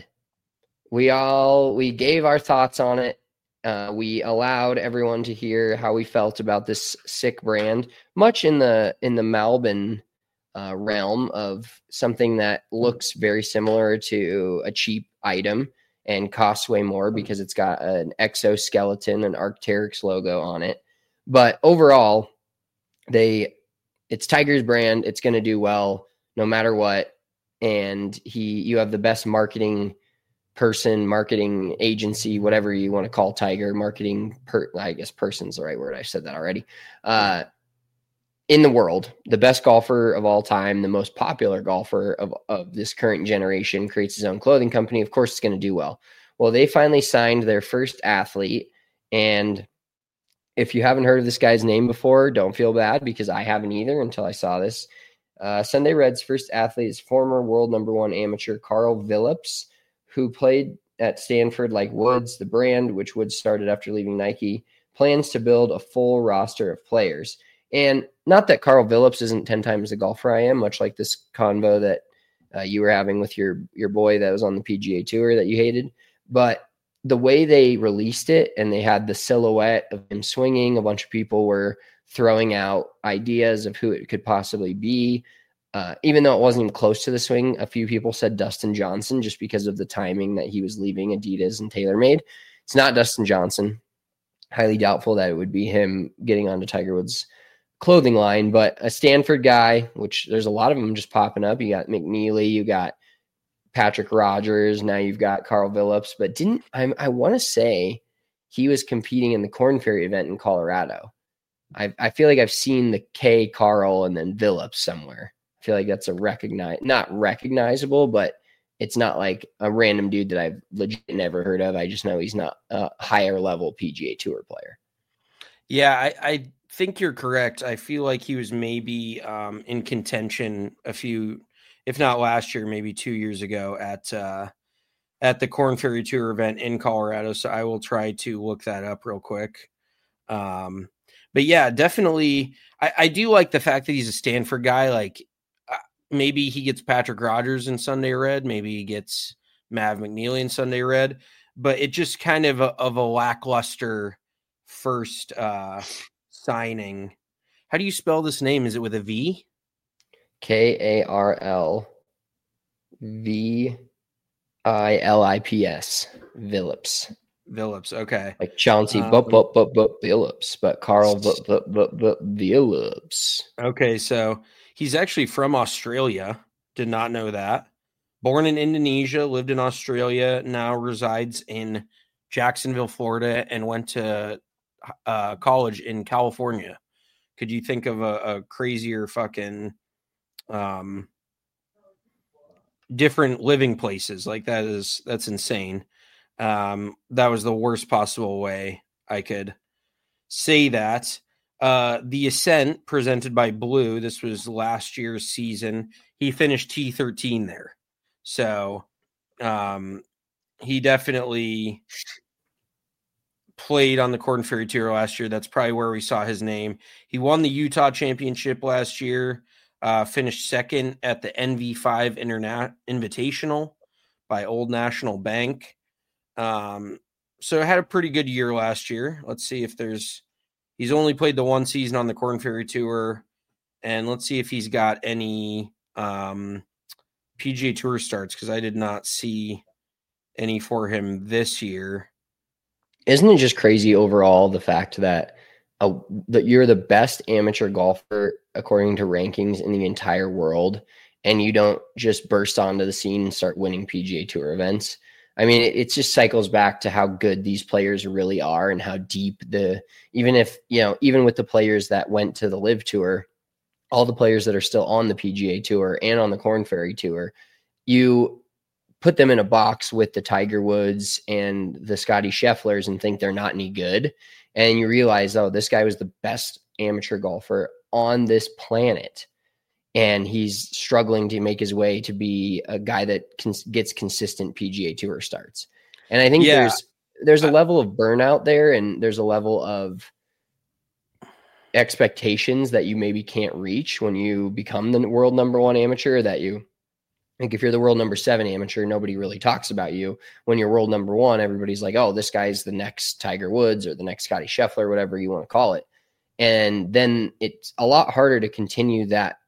We gave our thoughts on it. We allowed everyone to hear how we felt about this sick brand, much in the Malbon realm of something that looks very similar to a cheap item and costs way more because it's got an exoskeleton, an Arc'teryx logo on it. But overall, it's Tiger's brand. It's going to do well no matter what. And you have the best marketing person, marketing agency, whatever you want to call Tiger, I guess person's the right word. I said that already. In the world, the best golfer of all time, the most popular golfer of this current generation, creates his own clothing company. Of course, it's going to do well. Well, they finally signed their first athlete. And if you haven't heard of this guy's name before, don't feel bad, because I haven't either until I saw this. Sunday Red's first athlete is former world number 1 amateur Carl Phillips, who played at Stanford like Woods. The brand, which Woods started after leaving Nike, plans to build a full roster of players. And not that Carl Phillips isn't 10 times the golfer I am, much like this convo that you were having with your boy that was on the PGA Tour that you hated. But the way they released it, and they had the silhouette of him swinging, a bunch of people were throwing out ideas of who it could possibly be. Even though it wasn't even close to the swing, a few people said Dustin Johnson just because of the timing that he was leaving Adidas and TaylorMade. It's not Dustin Johnson. Highly doubtful that it would be him getting onto Tiger Woods' clothing line, but a Stanford guy, which there's a lot of them just popping up. You got McNeely, you got Patrick Rogers, now you've got Carl Phillips, but I want to say he was competing in the Korn Ferry event in Colorado. I feel like I've seen the K, Carl, and then Phillips somewhere. I feel like that's not recognizable, but it's not like a random dude that I've legit never heard of. I just know he's not a higher level PGA Tour player. Yeah, I think you're correct. I feel like he was maybe in contention a few, if not last year, maybe 2 years ago at the Korn Ferry Tour event in Colorado. So I will try to look that up real quick. But yeah, definitely. I do like the fact that he's a Stanford guy. Like maybe he gets Patrick Rogers in Sunday Red. Maybe he gets Mav McNeely in Sunday Red. But it just kind of a lackluster first signing. How do you spell this name? Is it with a V? Karl Phillips. Phillips. Okay. Like Chauncey Phillips, but Carl Phillips. Okay, so he's actually from Australia. Did not know that. Born in Indonesia, lived in Australia, now resides in Jacksonville, Florida, and went to college in California. Could you think of a crazier fucking different living places? Like that's insane. That was the worst possible way I could say that. The Ascent presented by Blue. This was last year's season. He finished T13 there. So he definitely played on the Korn Ferry Tour last year. That's probably where we saw his name. He won the Utah Championship last year, finished second at the NV5 Invitational by Old National Bank. So had a pretty good year last year. Let's see if he's only played the one season on the Korn Ferry Tour, and let's see if he's got any PGA Tour starts, because I did not see any for him this year. Isn't it just crazy overall, the fact that you're the best amateur golfer according to rankings in the entire world, and you don't just burst onto the scene and start winning PGA Tour events? I mean, it just cycles back to how good these players really are and how deep even with the players that went to the Live Tour, all the players that are still on the PGA Tour and on the Korn Ferry Tour, you put them in a box with the Tiger Woods and the Scotty Schefflers and think they're not any good. And you realize, oh, this guy was the best amateur golfer on this planet. And he's struggling to make his way to be a guy that gets consistent PGA Tour starts. And I think there's a level of burnout there, and there's a level of expectations that you maybe can't reach when you become the world number one amateur. Like if you're the world number 7 amateur, nobody really talks about you. When you're world number 1, everybody's like, oh, this guy's the next Tiger Woods or the next Scotty Scheffler, whatever you want to call it. And then it's a lot harder to continue that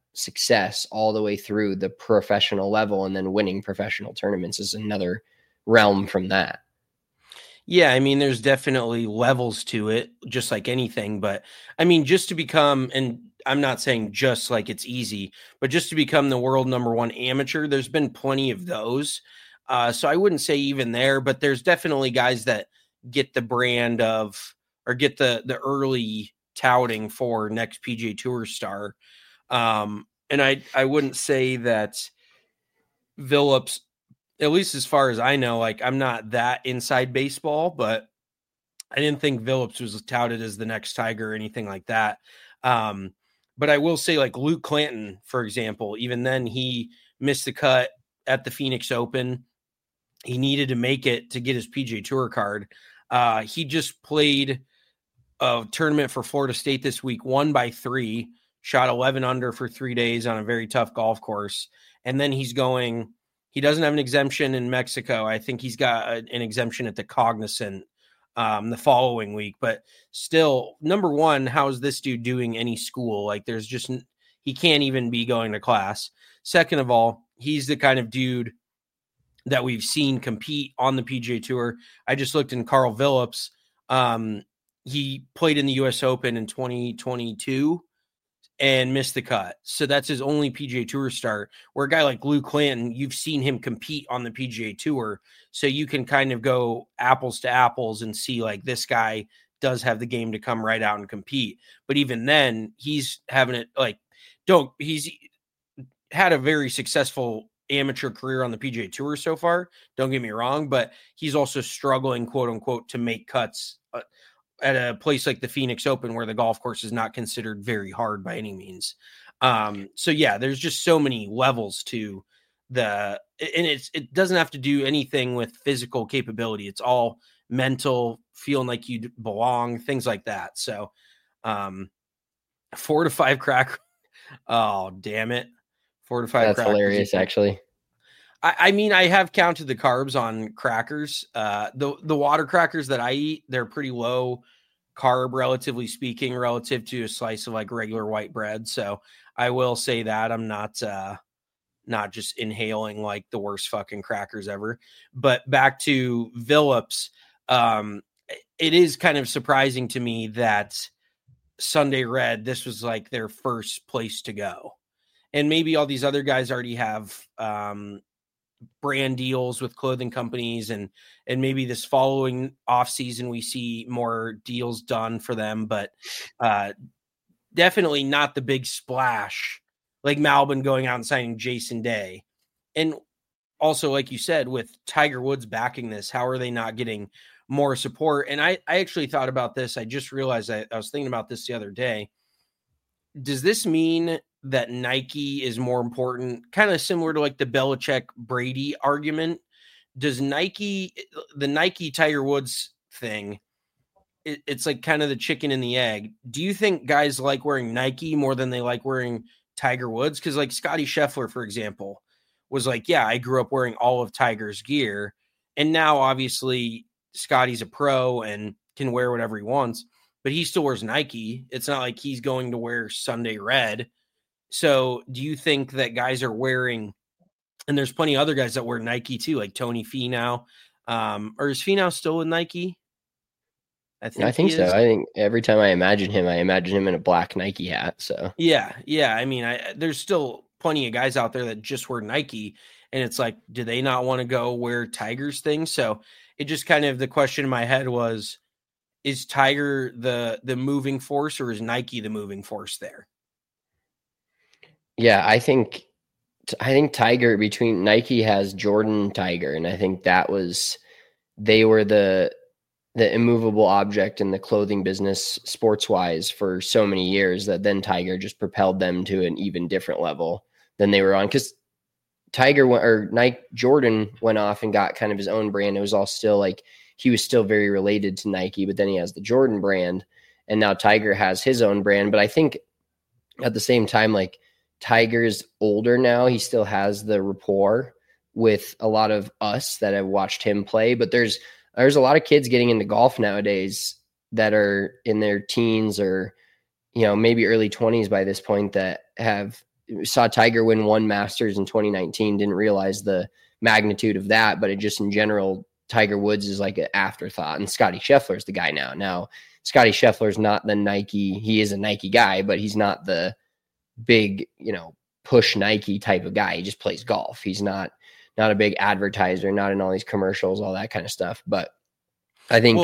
success all the way through the professional level, and then winning professional tournaments is another realm from that. Yeah, I mean, there's definitely levels to it, just like anything. But I mean, just to become, and I'm not saying just like it's easy, but just to become the world #1 amateur, there's been plenty of those. So I wouldn't say even there, but there's definitely guys that get the brand of, or get the early touting for next PGA Tour star. And I wouldn't say that Phillips, at least as far as I know, like I'm not that inside baseball, but I didn't think Phillips was touted as the next Tiger or anything like that. But I will say, like Luke Clanton, for example, even then he missed the cut at the Phoenix Open. He needed to make it to get his PGA Tour card. He just played a tournament for Florida State this week, won by 3, shot 11 under for 3 days on a very tough golf course. And then he doesn't have an exemption in Mexico. I think he's got an exemption at the Cognizant the following week. But still, number one, how is this dude doing any school? Like he can't even be going to class. Second of all, he's the kind of dude that we've seen compete on the PGA Tour. I just looked in Carl Phillips. He played in the U.S. Open in 2022 and missed the cut. So that's his only PGA Tour start. Where a guy like Luke Clanton, you've seen him compete on the PGA Tour. So you can kind of go apples to apples and see like this guy does have the game to come right out and compete. But even then, he's having it he's had a very successful amateur career on the PGA Tour so far. Don't get me wrong, but he's also struggling, quote unquote, to make cuts at a place like the Phoenix Open, where the golf course is not considered very hard by any means. So yeah, there's just so many levels to and it doesn't have to do anything with physical capability. It's all mental, feeling like you belong, things like that. So 4 to 5 crack. Oh, damn it. 4 to 5. That's hilarious, actually. I mean, I have counted the carbs on crackers. The water crackers that I eat, they're pretty low carb, relatively speaking, relative to a slice of like regular white bread. So I will say that I'm not just inhaling like the worst fucking crackers ever. But back to Phillips, it is kind of surprising to me that Sunday Red, this was like their first place to go. And maybe all these other guys already have brand deals with clothing companies, and maybe this following off season we see more deals done for them, but definitely not the big splash like Malbon going out and signing Jason Day. And also, like you said, with Tiger Woods backing this, how are they not getting more support? And I actually thought about this. I just realized I was thinking about this the other day. Does this mean that Nike is more important, kind of similar to like the Belichick Brady argument? Does the Nike Tiger Woods thing, it's like kind of the chicken and the egg. Do you think guys like wearing Nike more than they like wearing Tiger Woods? Because like Scotty Scheffler, for example, was like, yeah, I grew up wearing all of Tiger's gear. And now obviously Scotty's a pro and can wear whatever he wants, but he still wears Nike. It's not like he's going to wear Sunday Red. So do you think that guys are wearing, and there's plenty of other guys that wear Nike too, like Tony Finau, or is Finau still with Nike? I think so. I think every time I imagine him in a black Nike hat. So yeah. I mean, there's still plenty of guys out there that just wear Nike, and it's like, do they not want to go wear Tiger's thing? So it just kind of, the question in my head was, is Tiger the moving force, or is Nike the moving force there? Yeah, I think Tiger, between Nike has Jordan, Tiger, and I think they were the immovable object in the clothing business sports wise for so many years, that then Tiger just propelled them to an even different level than they were on. Because Jordan went off and got kind of his own brand. It was all still like, he was still very related to Nike, but then he has the Jordan brand, and now Tiger has his own brand. But I think at the same time, like, Tiger's older now. He still has the rapport with a lot of us that have watched him play, but there's a lot of kids getting into golf nowadays that are in their teens or, maybe early 20s by this point, that have saw Tiger win one Masters in 2019, didn't realize the magnitude of that, but it just in general, Tiger Woods is like an afterthought, and Scotty Scheffler is the guy now. Now, Scotty Scheffler is not the Nike. He is a Nike guy, but he's not the big, push Nike type of guy. He just plays golf. He's not a big advertiser, not in all these commercials, all that kind of stuff. But I think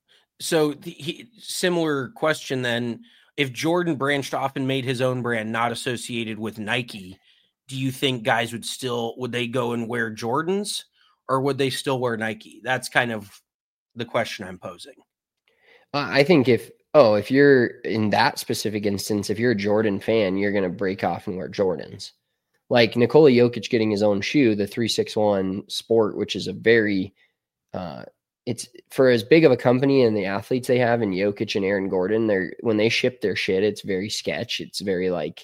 similar question then. If Jordan branched off and made his own brand, not associated with Nike, do you think guys would they go and wear Jordans, or would they still wear Nike? That's kind of the question I'm posing. I think if you're in that specific instance, if you're a Jordan fan, you're going to break off and wear Jordans. Like Nikola Jokic getting his own shoe, the 361 Sport, which is a very, it's for as big of a company and the athletes they have in Jokic and Aaron Gordon, when they ship their shit, it's very sketch. It's very like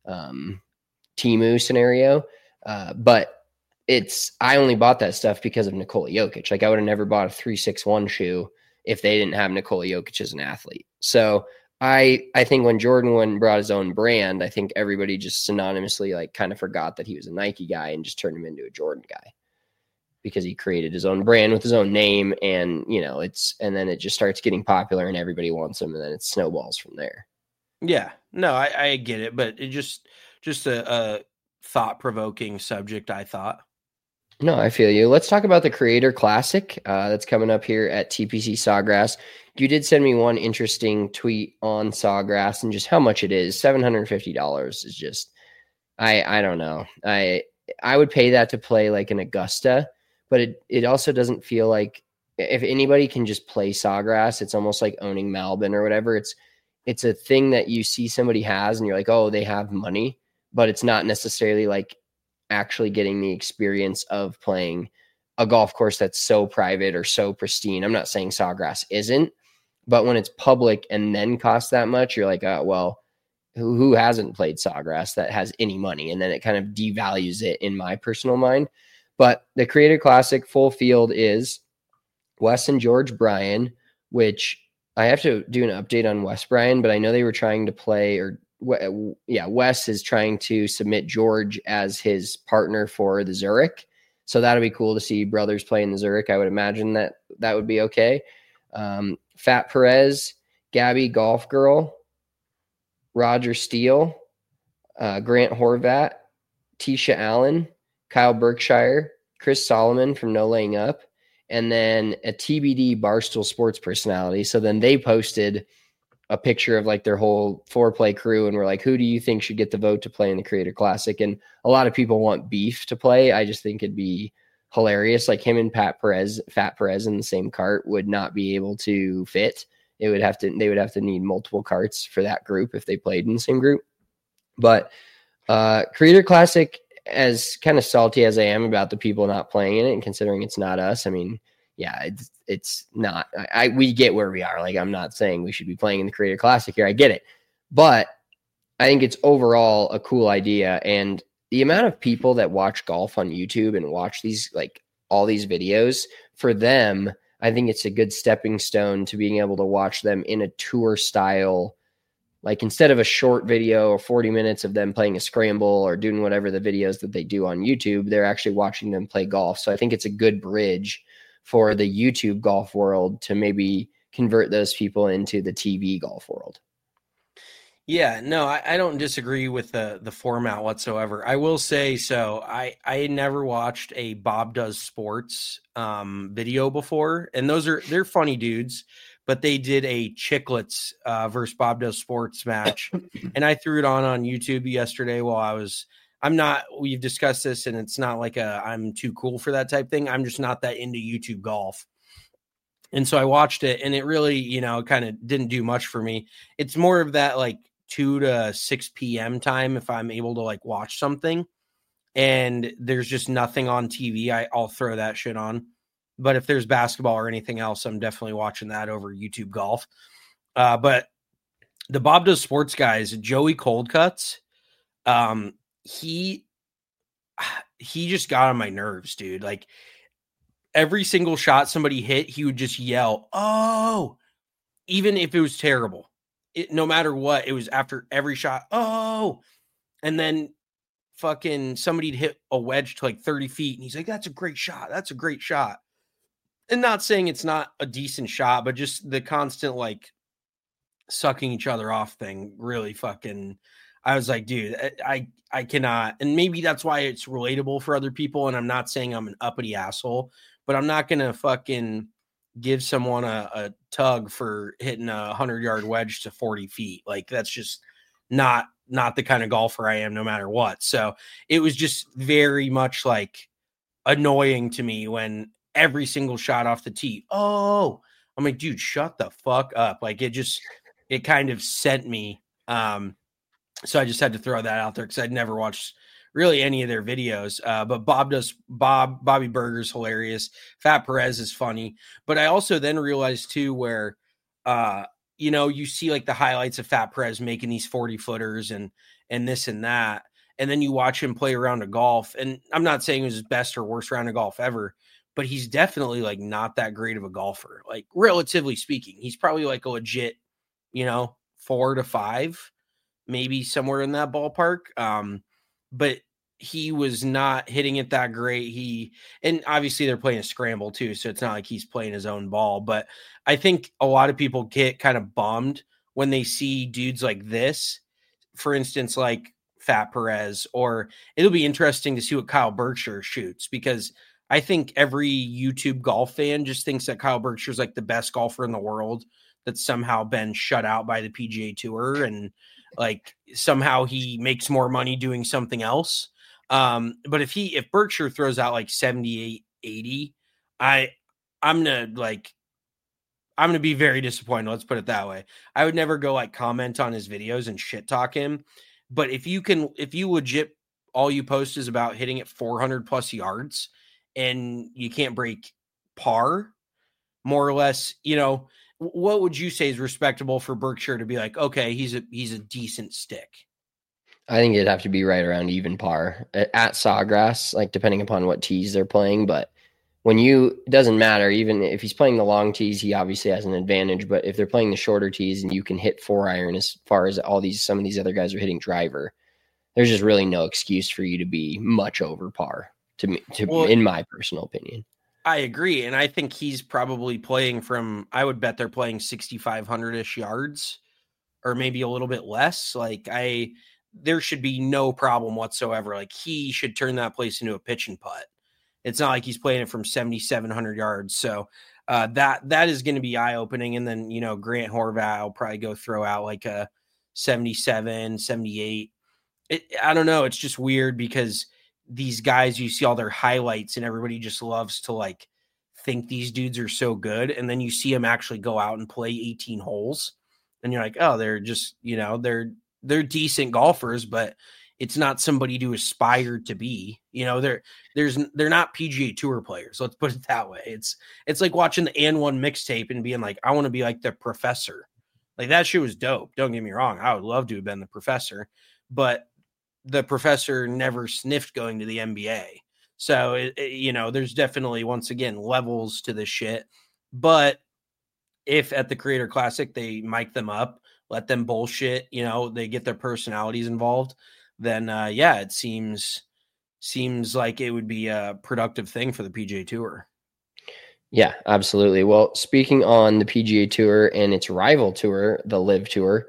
Temu scenario. But I only bought that stuff because of Nikola Jokic. Like I would have never bought a 361 shoe if they didn't have Nikola Jokic as an athlete. So I think when Jordan went and brought his own brand, I think everybody just synonymously like kind of forgot that he was a Nike guy and just turned him into a Jordan guy because he created his own brand with his own name. And, and then it just starts getting popular and everybody wants him. And then it snowballs from there. Yeah, no, I get it, but it just a thought-provoking subject, I thought. No, I feel you. Let's talk about the Creator Classic that's coming up here at TPC Sawgrass. You did send me one interesting tweet on Sawgrass and just how much it is. $750 is just, I don't know. I would pay that to play like an Augusta, but it also doesn't feel like if anybody can just play Sawgrass, it's almost like owning Melbourne or whatever. It's a thing that you see somebody has and you're like, oh, they have money, but it's not necessarily like actually getting the experience of playing a golf course that's so private or so pristine. I'm not saying Sawgrass isn't, but when it's public and then costs that much, you're like, oh, well, who hasn't played Sawgrass that has any money? And then it kind of devalues it in my personal mind. But the Creator Classic full field is Wes and George Bryan, which I have to do an update on Wes Bryan, but I know they were trying to play Wes is trying to submit George as his partner for the Zurich. So that'll be cool to see brothers play in the Zurich. I would imagine that would be okay. Fat Perez, Gabby Golf Girl, Roger Steele, Grant Horvat, Tisha Allen, Kyle Berkshire, Chris Solomon from No Laying Up, and then a TBD Barstool Sports personality. So then they posted a picture of like their whole foreplay crew and we're like, who do you think should get the vote to play in the Creator Classic? And a lot of people want Beef to play. I just think it'd be hilarious. Like him and Fat Perez in the same cart would not be able to fit. They would have to need multiple carts for that group if they played in the same group. But Creator Classic, as kind of salty as I am about the people not playing in it and considering it's not us, I mean, yeah, it's not. We get where we are. Like, I'm not saying we should be playing in the Creator Classic here. I get it. But I think it's overall a cool idea. And the amount of people that watch golf on YouTube and watch these, like all these videos, for them, I think it's a good stepping stone to being able to watch them in a tour style. Like instead of a short video or 40 minutes of them playing a scramble or doing whatever the videos that they do on YouTube, they're actually watching them play golf. So I think it's a good bridge for the YouTube golf world to maybe convert those people into the TV golf world. Yeah, no, I don't disagree with the format whatsoever. I will say, so I never watched a Bob Does Sports video before, and they're funny dudes, but they did a Chicklets versus Bob Does Sports match, and I threw it on YouTube yesterday while we've discussed this, and it's not like I'm too cool for that type thing. I'm just not that into YouTube golf. And so I watched it, and it really, kind of didn't do much for me. It's more of that like 2 to 6 p.m. time if I'm able to like watch something and there's just nothing on TV, I'll throw that shit on. But if there's basketball or anything else, I'm definitely watching that over YouTube golf. But the Bob Does Sports guys, Joey Coldcuts, he just got on my nerves, dude. Like every single shot somebody hit, he would just yell, "Oh!" Even if it was terrible. No matter what, it was after every shot, "Oh!" And then fucking somebody'd hit a wedge to like 30 feet and he's like, that's a great shot. That's a great shot. And not saying it's not a decent shot, but just the constant like sucking each other off thing really fucking, I was like, dude, I cannot. And maybe that's why it's relatable for other people. And I'm not saying I'm an uppity asshole, but I'm not going to fucking give someone a tug for hitting a 100-yard wedge to 40 feet. Like that's just not the kind of golfer I am no matter what. So it was just very much like annoying to me when every single shot off the tee. Oh, I'm like, dude, shut the fuck up. Like it kind of sent me. So I just had to throw that out there because I'd never watched really any of their videos. But Bobby Berger's hilarious. Fat Perez is funny. But I also then realized too where, you see like the highlights of Fat Perez making these 40-footers and this and that. And then you watch him play a round of golf. And I'm not saying it was his best or worst round of golf ever, but he's definitely like not that great of a golfer. Like relatively speaking, he's probably like a legit, 4 to 5. Maybe somewhere in that ballpark. But he was not hitting it that great. And obviously they're playing a scramble too. So it's not like he's playing his own ball, but I think a lot of people get kind of bummed when they see dudes like this, for instance, like Fat Perez, or it'll be interesting to see what Kyle Berkshire shoots, because I think every YouTube golf fan just thinks that Kyle Berkshire is like the best golfer in the world that's somehow been shut out by the PGA Tour. And like somehow he makes more money doing something else. But if Berkshire throws out like 78, 80, I'm going to be very disappointed. Let's put it that way. I would never go like comment on his videos and shit talk him. But if you legit, all you post is about hitting it 400 plus yards and you can't break par, more or less, what would you say is respectable for Berkshire to be like, okay, he's a decent stick? I think it'd have to be right around even par at Sawgrass, like depending upon what tees they're playing. But it doesn't matter, even if he's playing the long tees, he obviously has an advantage. But if they're playing the shorter tees and you can hit 4-iron as far as some of these other guys are hitting driver, there's just really no excuse for you to be much over par in my personal opinion. I agree. And I think he's probably playing I would bet they're playing 6,500-ish yards or maybe a little bit less. Like there should be no problem whatsoever. Like he should turn that place into a pitch and putt. It's not like he's playing it from 7,700 yards. So that is going to be eye-opening. And then, Grant Horvat will probably throw out like a 77, 78. I don't know. It's just weird because these guys, you see all their highlights and everybody just loves to like think these dudes are so good. And then you see them actually go out and play 18 holes and you're like, oh, they're just, they're decent golfers, but it's not somebody to aspire to be, they're not PGA Tour players. Let's put it that way. It's like watching the N1 mixtape and being like, I want to be like the Professor. Like that shit was dope. Don't get me wrong. I would love to have been the Professor, but the Professor never sniffed going to the NBA. So, there's definitely, once again, levels to this shit. But if at the Creator Classic, they mic them up, let them bullshit, they get their personalities involved, then, it seems like it would be a productive thing for the PGA Tour. Yeah, absolutely. Well, speaking on the PGA Tour and its rival tour, the LIV Tour,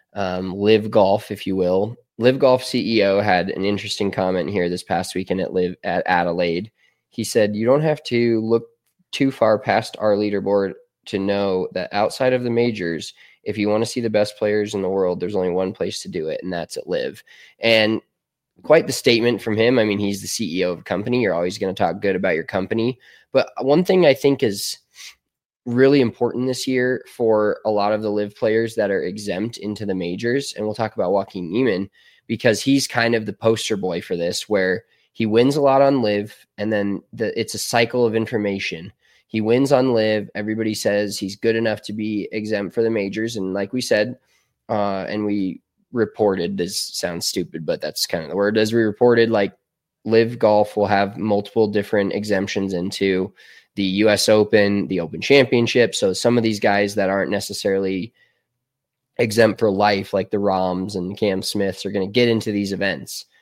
LIV Golf, if you will, LIV Golf CEO had an interesting comment here this past weekend at Adelaide. He said, you don't have to look too far past our leaderboard to know that outside of the majors, if you want to see the best players in the world, there's only one place to do it, and that's at LIV. And quite the statement from him. I mean, he's the CEO of a company. You're always going to talk good about your company. But one thing I think is really important this year for a lot of the LIV players that are exempt into the majors, and we'll talk about Joaquin Niemann, because he's kind of the poster boy for this, where he wins a lot on LIV, and then it's a cycle of information. He wins on LIV. Everybody says he's good enough to be exempt for the majors. And like we said, and we reported, this sounds stupid, but that's kind of the word, as we reported, like LIV Golf will have multiple different exemptions into the US Open, the Open Championship. So some of these guys that aren't necessarily exempt for life, like the Rahms and Cam Smiths, are going to get into these events.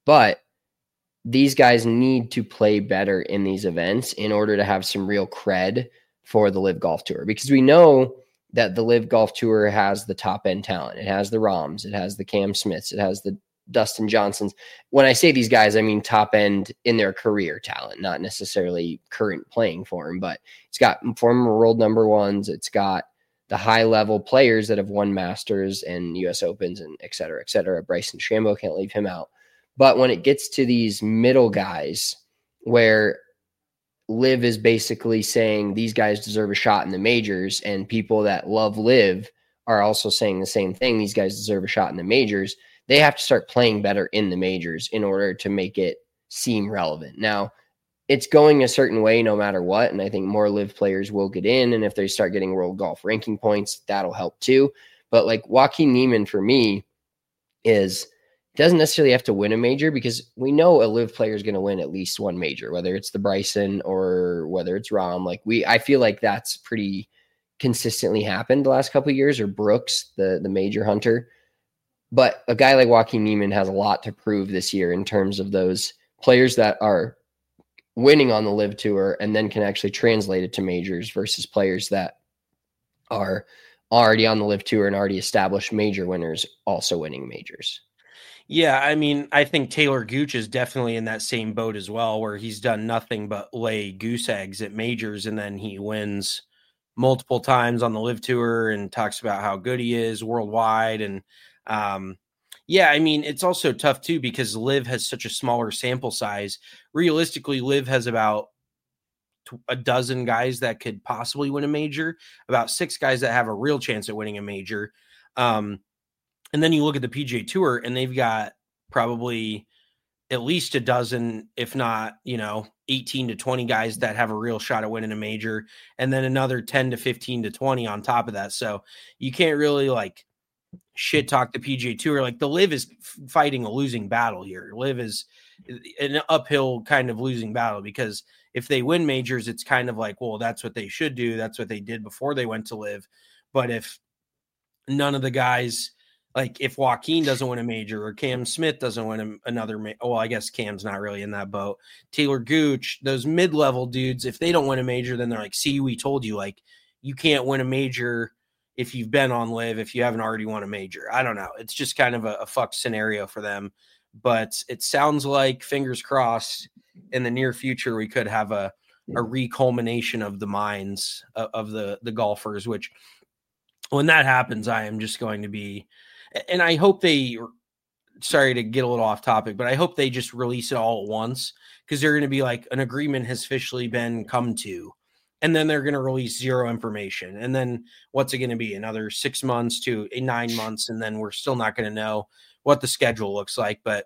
But these guys need to play better in these events in order to have some real cred for the Live Golf Tour, because we know that the Live Golf Tour has the top end talent. It has the Rahms, it has the Cam Smiths, it has the Dustin Johnsons. When I say these guys, I mean top end in their career talent, not necessarily current playing form, but it's got former world number ones. It's got the high level players that have won Masters and US Opens and et cetera, et cetera. Bryson DeChambeau, can't leave him out. But when it gets to these middle guys where Liv is basically saying these guys deserve a shot in the majors, and people that love Liv are also saying the same thing, these guys deserve a shot in the majors, they have to start playing better in the majors in order to make it seem relevant. Now, it's going a certain way no matter what, and I think more Liv players will get in, and if they start getting world golf ranking points, that'll help too. But like Joaquin Niemann for me doesn't necessarily have to win a major, because we know a Liv player is going to win at least one major, whether it's the Bryson or whether it's Rahm. I feel like that's pretty consistently happened the last couple of years, or Brooks, the major hunter. But a guy like Joaquin Niemann has a lot to prove this year in terms of those players that are winning on the Live Tour and then can actually translate it to majors versus players that are already on the Live Tour and already established major winners also winning majors. Yeah, I mean, I think Taylor Gooch is definitely in that same boat as well, where he's done nothing but lay goose eggs at majors, and then he wins multiple times on the Live Tour and talks about how good he is worldwide. And yeah, I mean, it's also tough too, because Liv has such a smaller sample size. Realistically, Liv has about a dozen guys that could possibly win a major, about 6 guys that have a real chance at winning a major. And then you look at the PGA Tour, and they've got probably at least a dozen, if not, 18 to 20 guys that have a real shot at winning a major, and then another 10 to 15 to 20 on top of that. So you can't really shit talk the PGA Tour. The Liv is fighting a losing battle here. Liv is an uphill kind of losing battle, because if they win majors, it's kind of well, that's what they should do. That's what they did before they went to Liv. But if none of the guys, if Joaquin doesn't win a major, or Cam Smith doesn't win another, well, I guess Cam's not really in that boat. Taylor Gooch, those mid-level dudes, if they don't win a major, then they're see, we told you, you can't win a major if you've been on Liv, if you haven't already won a major. I don't know. It's just kind of a fuck scenario for them. But it sounds like, fingers crossed, in the near future, we could have a reculmination of the minds of the golfers, which when that happens, I am just going to be, and I hope sorry to get a little off topic, but I hope they just release it all at once, because they're going to be an agreement has officially been come to, and then they're going to release zero information. And then what's it going to be? Another 6 months to 9 months. And then we're still not going to know what the schedule looks like. But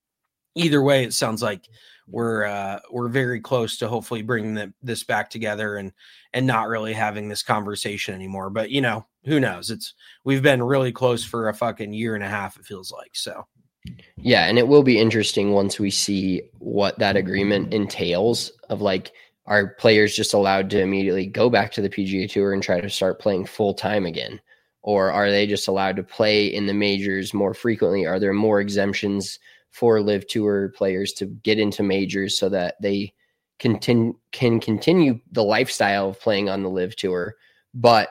either way, it sounds like we're very close to hopefully bringing this back together and not really having this conversation anymore. But who knows? We've been really close for a fucking year and a half, it feels like. So yeah, and it will be interesting once we see what that agreement entails of are players just allowed to immediately go back to the PGA Tour and try to start playing full time again? Or are they just allowed to play in the majors more frequently? Are there more exemptions for Live Tour players to get into majors so that they can continue the lifestyle of playing on the Live Tour, but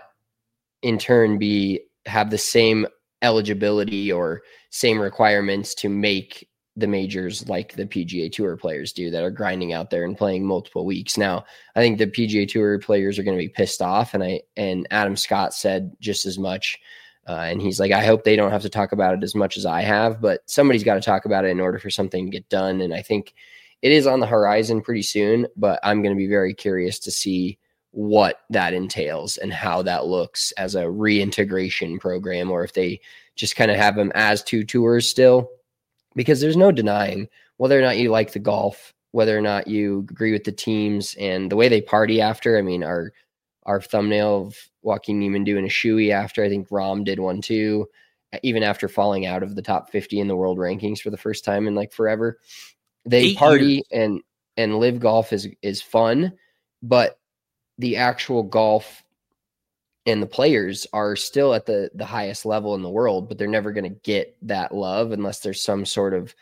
in turn have the same eligibility or same requirements to make the majors like the PGA Tour players do that are grinding out there and playing multiple weeks? Now, I think the PGA Tour players are going to be pissed off, and Adam Scott said just as much. And he's I hope they don't have to talk about it as much as I have, but somebody's got to talk about it in order for something to get done. And I think it is on the horizon pretty soon, but I'm going to be very curious to see what that entails and how that looks as a reintegration program, or if they just kind of have them as 2 tours still, because there's no denying whether or not you like the golf, whether or not you agree with the teams and the way they party after. I mean, our thumbnail of Joaquin Niemann doing a shoey after, I think Rahm did one too, even after falling out of the top 50 in the world rankings for the first time in forever. They party and Live Golf is fun, but the actual golf and the players are still at the highest level in the world, but they're never going to get that love unless there's some sort of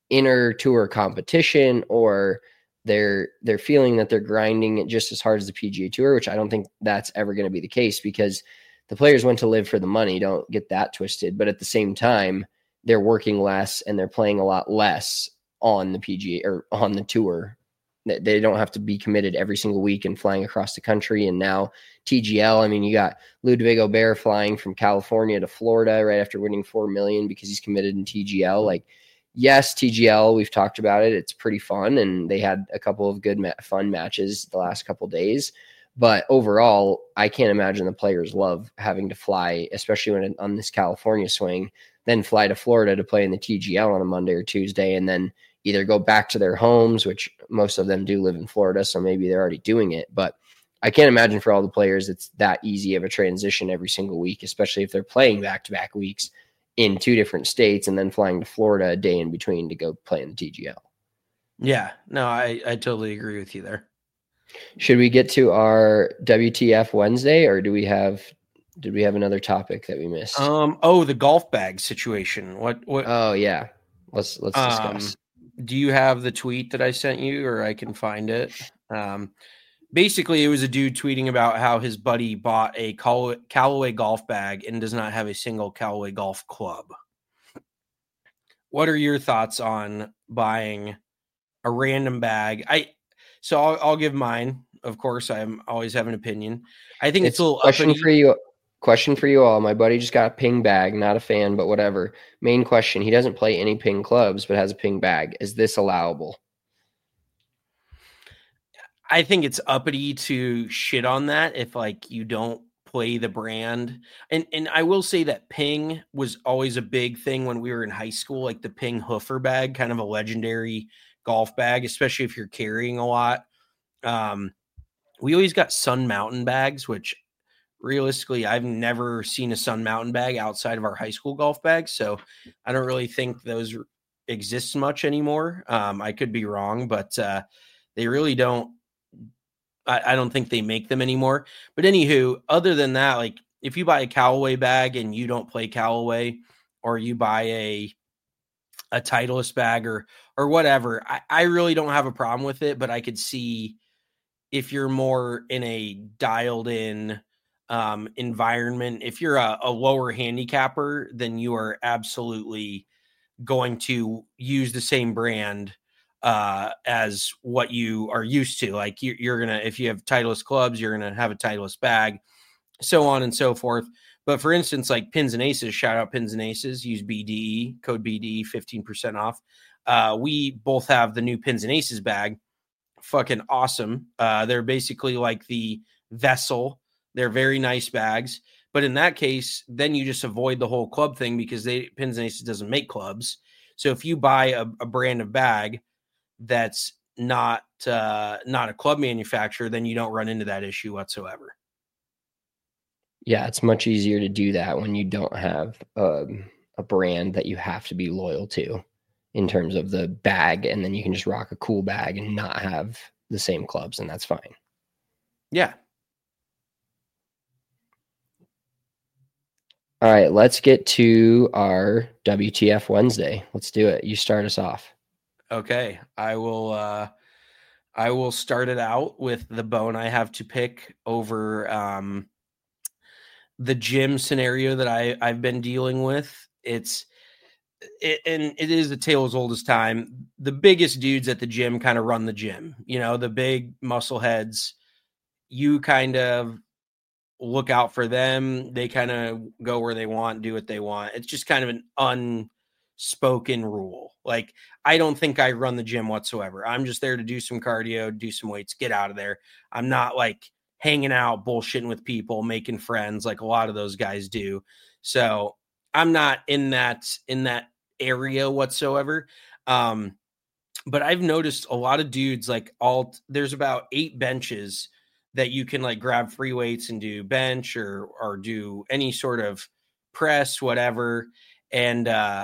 inner tour competition, or they're feeling that they're grinding it just as hard as the PGA Tour, which I don't think that's ever going to be the case, because the players went to live for the money. Don't get that twisted. But at the same time, they're working less and they're playing a lot less on the PGA or on the tour. They don't have to be committed every single week and flying across the country. And now TGL, I mean, you got Ludwig Aubert flying from California to Florida right after winning $4 million because he's committed in TGL. Like, yes, TGL, we've talked about it. It's pretty fun. And they had a couple of good fun matches the last couple of days. But overall, I can't imagine the players love having to fly, especially when on this California swing, then fly to Florida to play in the TGL on a Monday or Tuesday, and then either go back to their homes, which most of them do live in Florida, so maybe they're already doing it. But I can't imagine for all the players it's that easy of a transition every single week, especially if they're playing back-to-back weeks in 2 different states and then flying to Florida a day in between to go play in the TGL. Yeah, no, I totally agree with you there. Should we get to our WTF Wednesday, or did we have another topic that we missed? The golf bag situation. What? Oh yeah. Let's discuss. Do you have the tweet that I sent you, or I can find it? Basically, it was a dude tweeting about how his buddy bought a Callaway golf bag and does not have a single Callaway golf club. What are your thoughts on buying a random bag? I'll give mine. Of course, I always have an opinion. I think it's a little Question for you all. My buddy just got a Ping bag. Not a fan, but whatever. Main question: he doesn't play any Ping clubs, but has a Ping bag. Is this allowable? I think it's uppity to shit on that if like you don't play the brand. And I will say that Ping was always a big thing when we were in high school, like the Ping Hoofer bag, kind of a legendary golf bag, especially if you're carrying a lot. We always got Sun Mountain bags, which realistically, I've never seen a Sun Mountain bag outside of our high school golf bags. So I don't really think those exist much anymore. I could be wrong, but they really don't. I don't think they make them anymore. But anywho, other than that, like if you buy a Callaway bag and you don't play Callaway, or you buy a Titleist bag or whatever, I really don't have a problem with it. But I could see if you're more in a dialed in environment, if you're a lower handicapper, then you are absolutely going to use the same brand as what you are used to. Like you're gonna, if you have Titleist clubs, you're gonna have a Titleist bag, so on and so forth. But for instance, like Pins and Aces, shout out Pins and Aces, use BDE, code BDE, 15% off. We both have the new Pins and Aces bag. Fucking awesome. They're basically like the Vessel. They're very nice bags. But in that case, then you just avoid the whole club thing, because Pins and Aces doesn't make clubs. So if you buy a brand of bag that's not a club manufacturer, then you don't run into that issue whatsoever. Yeah, it's much easier to do that when you don't have a brand that you have to be loyal to in terms of the bag, and then you can just rock a cool bag and not have the same clubs, and that's fine. Yeah. All right, let's get to our WTF Wednesday. Let's do it. You start us off. Okay, I will start it out with the bone I have to pick over the gym scenario that I've been dealing with. And it is a tale as old as time. The biggest dudes at the gym kind of run the gym, the big muscle heads. You kind of look out for them. They kind of go where they want, do what they want. It's just kind of an unspoken rule. Like, I don't think I run the gym whatsoever. I'm just there to do some cardio, do some weights, get out of there. I'm not like hanging out, bullshitting with people, making friends like a lot of those guys do. So I'm not in that area whatsoever. But I've noticed a lot of dudes, like there's about 8 benches that you can like grab free weights and do bench or do any sort of press, whatever. And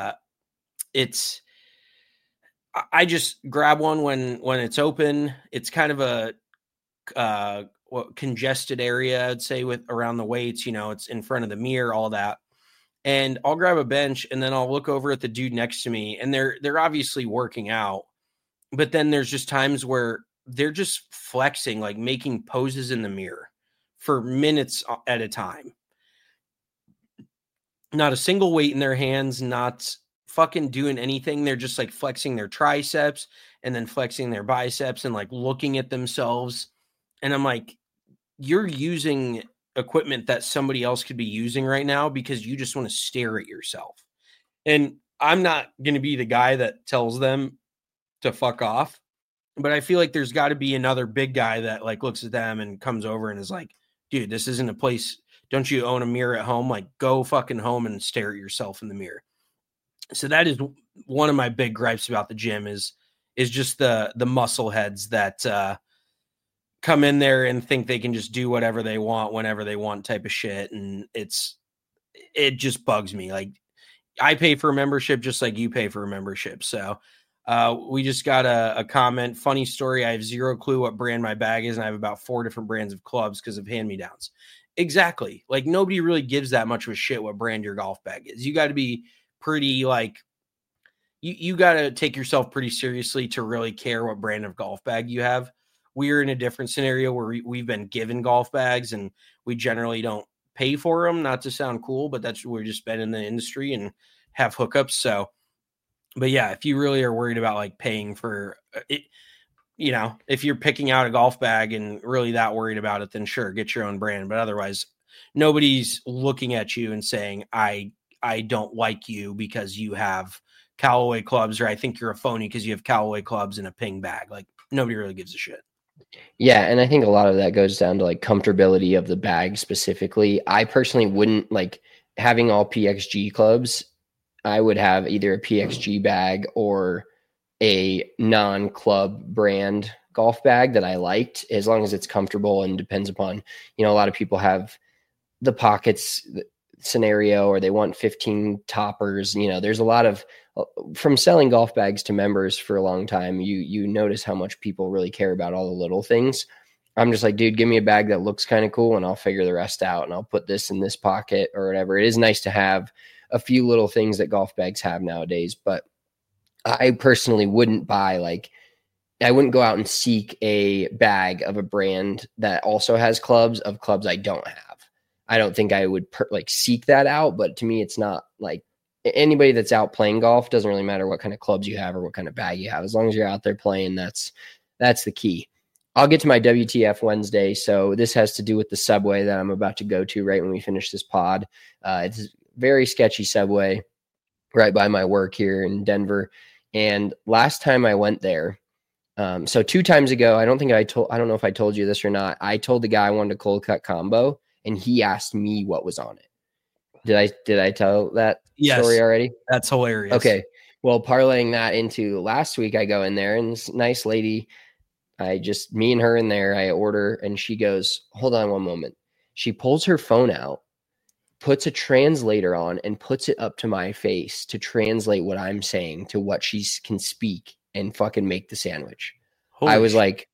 I just grab one when it's open. It's kind of a congested area, I'd say, with around the weights, it's in front of the mirror, all that. and I'll grab a bench and then I'll look over at the dude next to me, and they're obviously working out, but then there's just times where they're just flexing, like making poses in the mirror for minutes at a time. Not a single weight in their hands, not fucking doing anything. They're just like flexing their triceps and then flexing their biceps and like looking at themselves. And I'm like, you're using equipment that somebody else could be using right now because you just want to stare at yourself. And I'm not going to be the guy that tells them to fuck off, but I feel like there's got to be another big guy that like looks at them and comes over and is like, dude, this isn't a place. Don't you own a mirror at home? Like, go fucking home and stare at yourself in the mirror. So that is one of my big gripes about the gym is just the muscle heads that come in there and think they can just do whatever they want whenever they want type of shit. And it just bugs me. Like, I pay for a membership just like you pay for a membership. So we just got a comment. Funny story. I have zero clue what brand my bag is, and I have about 4 different brands of clubs because of hand-me-downs. Exactly. Like, nobody really gives that much of a shit what brand your golf bag is. You got to be pretty like you got to take yourself pretty seriously to really care what brand of golf bag you have. We're in a different scenario where we've been given golf bags and we generally don't pay for them, not to sound cool, but we're just been in the industry and have hookups. So, but yeah, if you really are worried about like paying for it, you know, if you're picking out a golf bag and really that worried about it, then sure, get your own brand. But otherwise, nobody's looking at you and saying, I don't like you because you have Callaway clubs, or I think you're a phony because you have Callaway clubs in a Ping bag. Like, nobody really gives a shit. Yeah, and I think a lot of that goes down to like comfortability of the bag specifically. I personally wouldn't like having all PXG clubs. I would have either a PXG bag or a non-club brand golf bag that I liked, as long as it's comfortable and depends upon, you know, a lot of people have the pockets scenario or they want 15 toppers. You know, there's a lot of, from selling golf bags to members for a long time, you notice how much people really care about all the little things. I'm just like, dude, give me a bag that looks kind of cool and I'll figure the rest out and I'll put this in this pocket or whatever. It is nice to have a few little things that golf bags have nowadays, but I personally wouldn't buy I wouldn't go out and seek a bag of a brand that also has clubs I don't have. I don't think I would seek that out, but to me, it's not like anybody that's out playing golf, doesn't really matter what kind of clubs you have or what kind of bag you have. As long as you're out there playing, that's the key. I'll get to my WTF Wednesday. So this has to do with the Subway that I'm about to go to right when we finish this pod. It's a very sketchy Subway right by my work here in Denver. And last time I went there, so 2 times ago, I don't know if I told you this or not. I told the guy I wanted a cold cut combo and he asked me what was on it. Did I tell that story already? That's hilarious. Okay. Well, parlaying that into last week, I go in there and this nice lady, me and her in there, I order and she goes, hold on one moment. She pulls her phone out, puts a translator on and puts it up to my face to translate what I'm saying to what she can speak and fucking make the sandwich. I was like,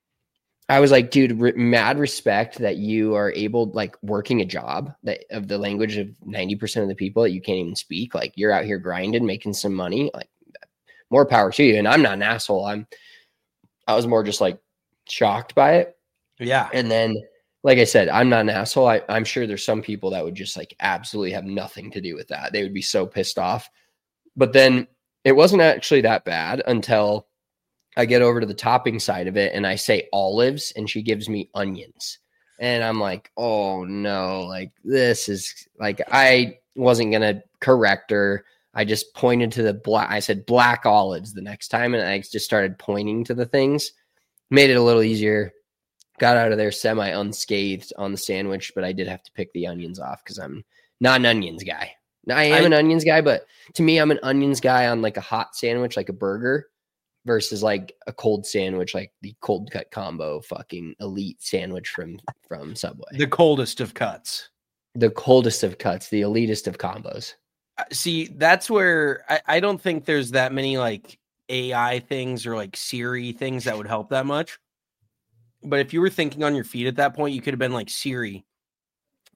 dude, mad respect that you are able, like, working a job that of the language of 90% of the people that you can't even speak. Like, you're out here grinding, making some money. Like, more power to you. And I'm not an asshole. I was more just like shocked by it. Yeah. And then, like I said, I'm not an asshole. I'm sure there's some people that would just like absolutely have nothing to do with that. They would be so pissed off. But then it wasn't actually that bad until I get over to the topping side of it and I say olives and she gives me onions. And I'm like, oh no, like this is like, I wasn't going to correct her. I just pointed to the black. I said black olives the next time. And I just started pointing to the things, made it a little easier, got out of there semi unscathed on the sandwich, but I did have to pick the onions off because I'm not an onions guy. Now, I am an onions guy, but to me, I'm an onions guy on like a hot sandwich, like a burger, versus like a cold sandwich, like the cold cut combo fucking elite sandwich from Subway. The coldest of cuts. The coldest of cuts, the elitist of combos. See, that's where I don't think there's that many like AI things or like Siri things that would help that much. But if you were thinking on your feet at that point, you could have been like, Siri,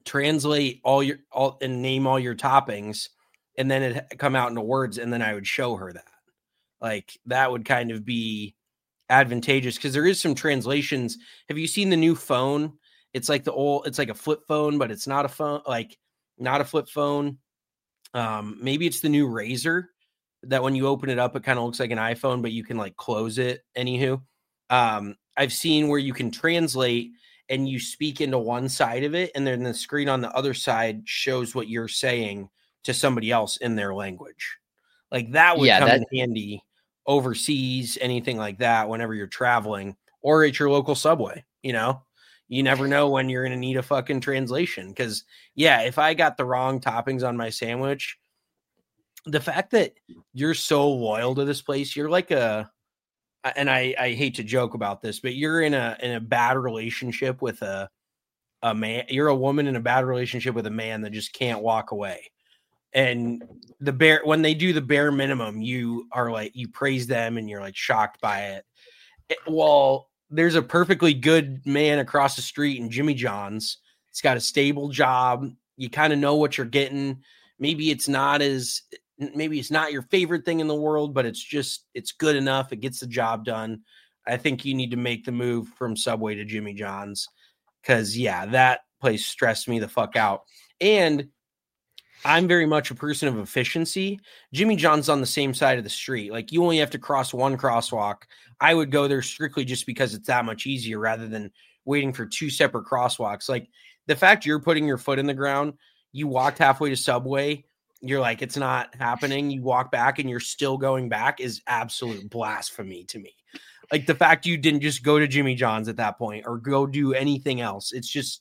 translate all and name all your toppings, and then it come out into words, and then I would show her that. Like that would kind of be advantageous because there is some translations. Have you seen the new phone? It's like it's like a flip phone, but it's not a phone, like not a flip phone. Maybe it's the new Razr that when you open it up, it kind of looks like an iPhone, but you can like close it. Anywho, I've seen where you can translate and you speak into one side of it, and then the screen on the other side shows what you're saying to somebody else in their language. Like that would come in handy overseas, anything like that, whenever you're traveling or at your local Subway. You never know when you're going to need a fucking translation. Because, yeah, if I got the wrong toppings on my sandwich, the fact that you're so loyal to this place, you're like and I hate to joke about this, but you're in a bad relationship with a man. You're a woman in a bad relationship with a man that just can't walk away. And when they do the bare minimum, you are like, you praise them and you're like shocked by it. Well, there's a perfectly good man across the street in Jimmy John's. He's got a stable job. You kind of know what you're getting. Maybe it's not your favorite thing in the world, but it's good enough. It gets the job done. I think you need to make the move from Subway to Jimmy John's because, yeah, that place stressed me the fuck out. And I'm very much a person of efficiency. Jimmy John's on the same side of the street. Like you only have to cross one crosswalk. I would go there strictly just because it's that much easier rather than waiting for two separate crosswalks. Like the fact you're putting your foot in the ground, you walked halfway to Subway, you're like, it's not happening. You walk back and you're still going back is absolute blasphemy to me. Like the fact you didn't just go to Jimmy John's at that point or go do anything else. It's just,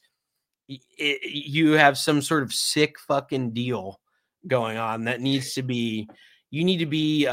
you have some sort of sick fucking deal going on that needs to be, you need to be,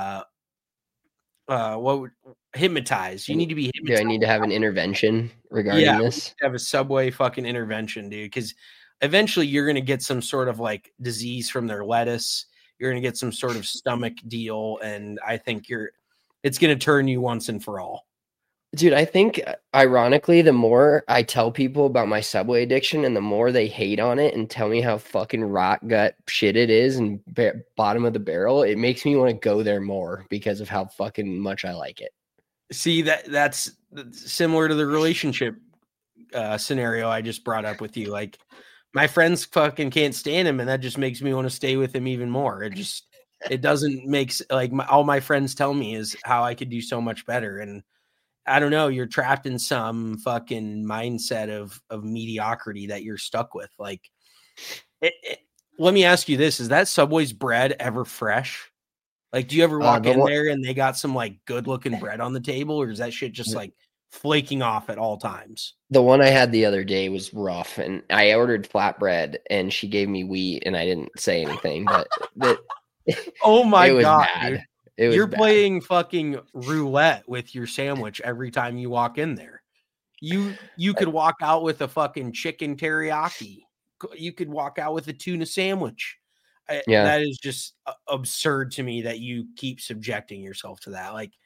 hypnotized. You need to be hypnotized. Do I need to have an intervention regarding this? Have a Subway fucking intervention, dude. Because eventually you're going to get some sort of like disease from their lettuce. You're going to get some sort of stomach deal. And I think it's going to turn you once and for all. Dude, I think ironically, the more I tell people about my Subway addiction and the more they hate on it and tell me how fucking rot gut shit it is and bottom of the barrel, it makes me want to go there more because of how fucking much I like it. See, that's similar to the relationship scenario I just brought up with you. Like my friends fucking can't stand him, and that just makes me want to stay with him even more. It doesn't make like all my friends tell me is how I could do so much better. And I don't know, you're trapped in some fucking mindset of mediocrity that you're stuck with. Like, let me ask you this. Is that Subway's bread ever fresh? Like, do you ever walk in there and they got some like good looking bread on the table, or is that shit just like flaking off at all times? The one I had the other day was rough, and I ordered flatbread and she gave me wheat and I didn't say anything, but oh my God, bad. Dude. You're playing fucking roulette with your sandwich every time you walk in there. You could walk out with a fucking chicken teriyaki. You could walk out with a tuna sandwich. That is just absurd to me that you keep subjecting yourself to that. Like,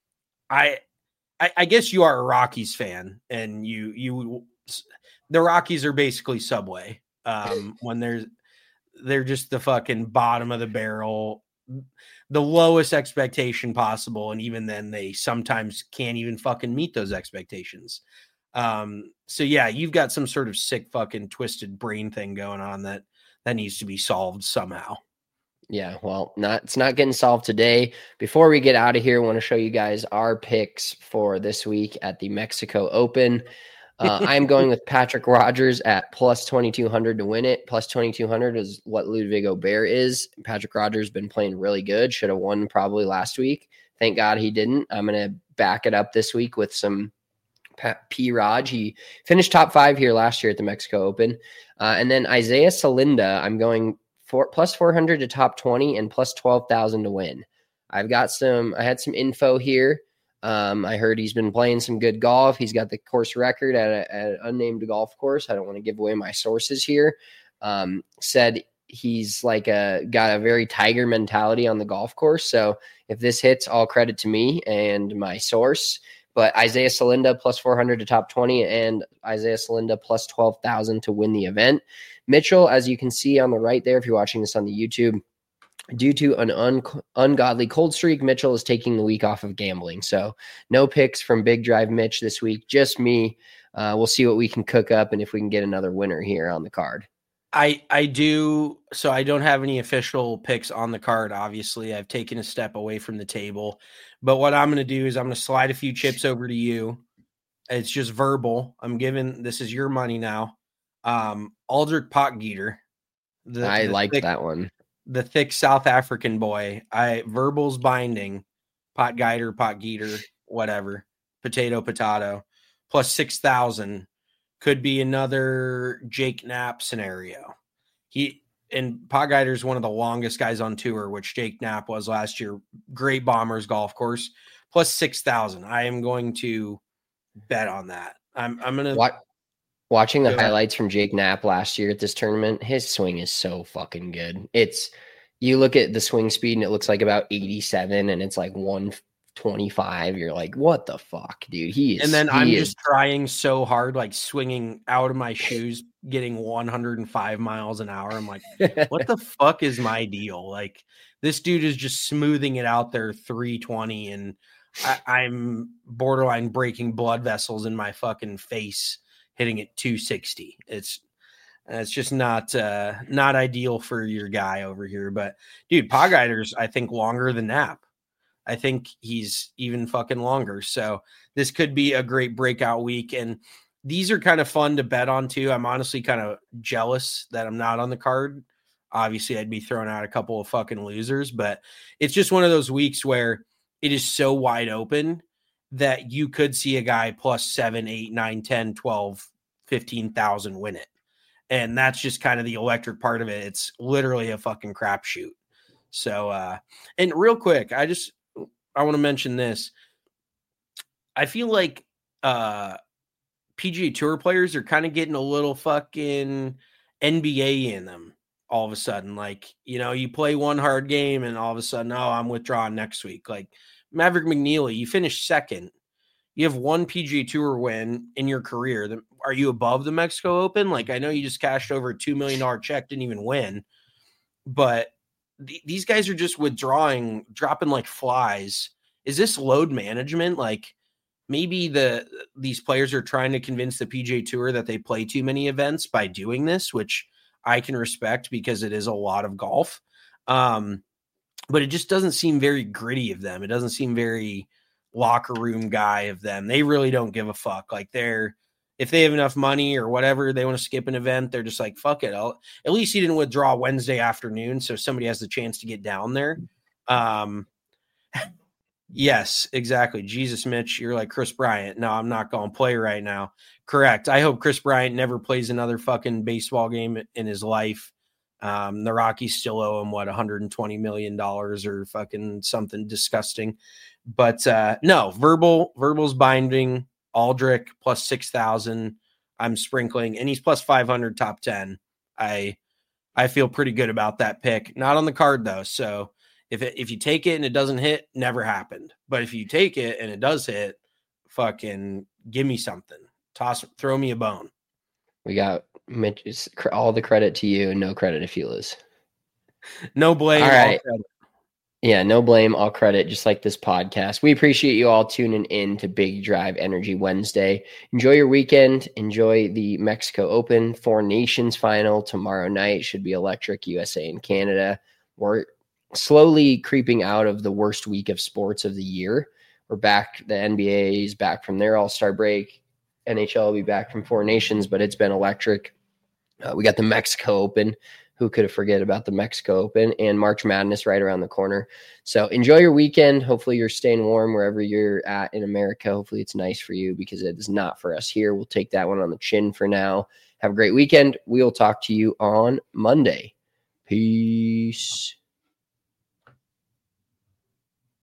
I guess you are a Rockies fan, and the Rockies are basically Subway. When they're just the fucking bottom of the barrel, the lowest expectation possible, and even then they sometimes can't even fucking meet those expectations. So yeah, you've got some sort of sick fucking twisted brain thing going on that needs to be solved somehow. Yeah, well, it's not getting solved today. Before we get out of here, I want to show you guys our picks for this week at the Mexico Open. I'm going with Patrick Rodgers at plus 2,200 to win it. Plus 2,200 is what Ludwig Aubert is. Patrick Rodgers has been playing really good. Should have won probably last week. Thank God he didn't. I'm going to back it up this week with some P-Raj. He finished top 5 here last year at the Mexico Open. And then Isaiah Salinda, I'm going plus 400 to top 20 and plus 12,000 to win. I had some info here. I heard he's been playing some good golf. He's got the course record at an unnamed golf course. I don't want to give away my sources here. Said he's like got a very Tiger mentality on the golf course. So if this hits, all credit to me and my source. But Isaiah Salinda plus 400 to top 20 and Isaiah Salinda plus 12,000 to win the event. Mitchell, as you can see on the right there, if you're watching this on the YouTube, due to an ungodly cold streak, Mitchell is taking the week off of gambling. So no picks from Big Drive Mitch this week, just me. We'll see what we can cook up and if we can get another winner here on the card. I do. So I don't have any official picks on the card. Obviously, I've taken a step away from the table. But what I'm going to do is I'm going to slide a few chips over to you. It's just verbal. This is your money now. Aldrich Potgieter. I like that one. The thick South African boy. Verbal's binding. Potgieter, whatever. Potato. Plus 6,000. Could be another Jake Knapp scenario. Potgieter is one of the longest guys on tour, which Jake Knapp was last year. Great Bombers golf course. Plus 6,000. I am going to bet on that. I'm going to watching the highlights from Jake Knapp last year at this tournament. His swing is so fucking good. You look at the swing speed and it looks like about 87 and it's like 125. You're like, what the fuck, dude? I'm just trying so hard, like swinging out of my shoes, getting 105 miles an hour. I'm like, what the fuck is my deal? Like, this dude is just smoothing it out there 320 and I'm borderline breaking blood vessels in my fucking face hitting it 260. It's just not ideal for your guy over here. But dude, Potgieter's I think longer than Knapp. I think he's even fucking longer. So this could be a great breakout week. And these are kind of fun to bet on too. I'm honestly kind of jealous that I'm not on the card. Obviously, I'd be throwing out a couple of fucking losers, but it's just one of those weeks where it is so wide open that you could see a guy plus 7, 8, 9, 10, 12, 15,000 win it. And that's just kind of the electric part of it. It's literally a fucking crapshoot. So, and real quick, I want to mention this. I feel like PGA Tour players are kind of getting a little fucking NBA in them all of a sudden. Like, you play one hard game and all of a sudden, I'm withdrawing next week. Like Maverick McNeely, you finished second. You have one PGA Tour win in your career. Are you above the Mexico Open? Like, I know you just cashed over a $2 million check, didn't even win. But these guys are just withdrawing, dropping like flies. Is this load management? Like, maybe these players are trying to convince the PGA Tour that they play too many events by doing this, which I can respect because it is a lot of golf. But it just doesn't seem very gritty of them. It doesn't seem very locker room guy of them. They really don't give a fuck. Like, if they have enough money or whatever, they want to skip an event, they're just like, fuck it. At least he didn't withdraw Wednesday afternoon, so somebody has the chance to get down there. Yes, exactly. Jesus, Mitch, you're like Chris Bryant. No, I'm not going to play right now. Correct. I hope Chris Bryant never plays another fucking baseball game in his life. The Rockies still owe him, $120 million or fucking something disgusting. But no, Verbal's binding. Aldrich plus 6,000. I'm sprinkling, and he's plus 500 top 10. I feel pretty good about that pick. Not on the card though. So if you take it and it doesn't hit, never happened. But if you take it and it does hit, fucking give me something. Throw me a bone. We got Mitch, all the credit to you and no credit to Felas. No blame. All right. Yeah, no blame, all credit, just like this podcast. We appreciate you all tuning in to Big Drive Energy Wednesday. Enjoy your weekend. Enjoy the Mexico Open 4 Nations final tomorrow night. Should be electric. USA and Canada. We're slowly creeping out of the worst week of sports of the year. We're back. The NBA is back from their All-Star break. NHL will be back from 4 Nations, but it's been electric. We got the Mexico Open. Who could have forget about the Mexico Open and March Madness right around the corner. So enjoy your weekend. Hopefully you're staying warm wherever you're at in America. Hopefully it's nice for you because it is not for us here. We'll take that one on the chin for now. Have a great weekend. We'll talk to you on Monday. Peace.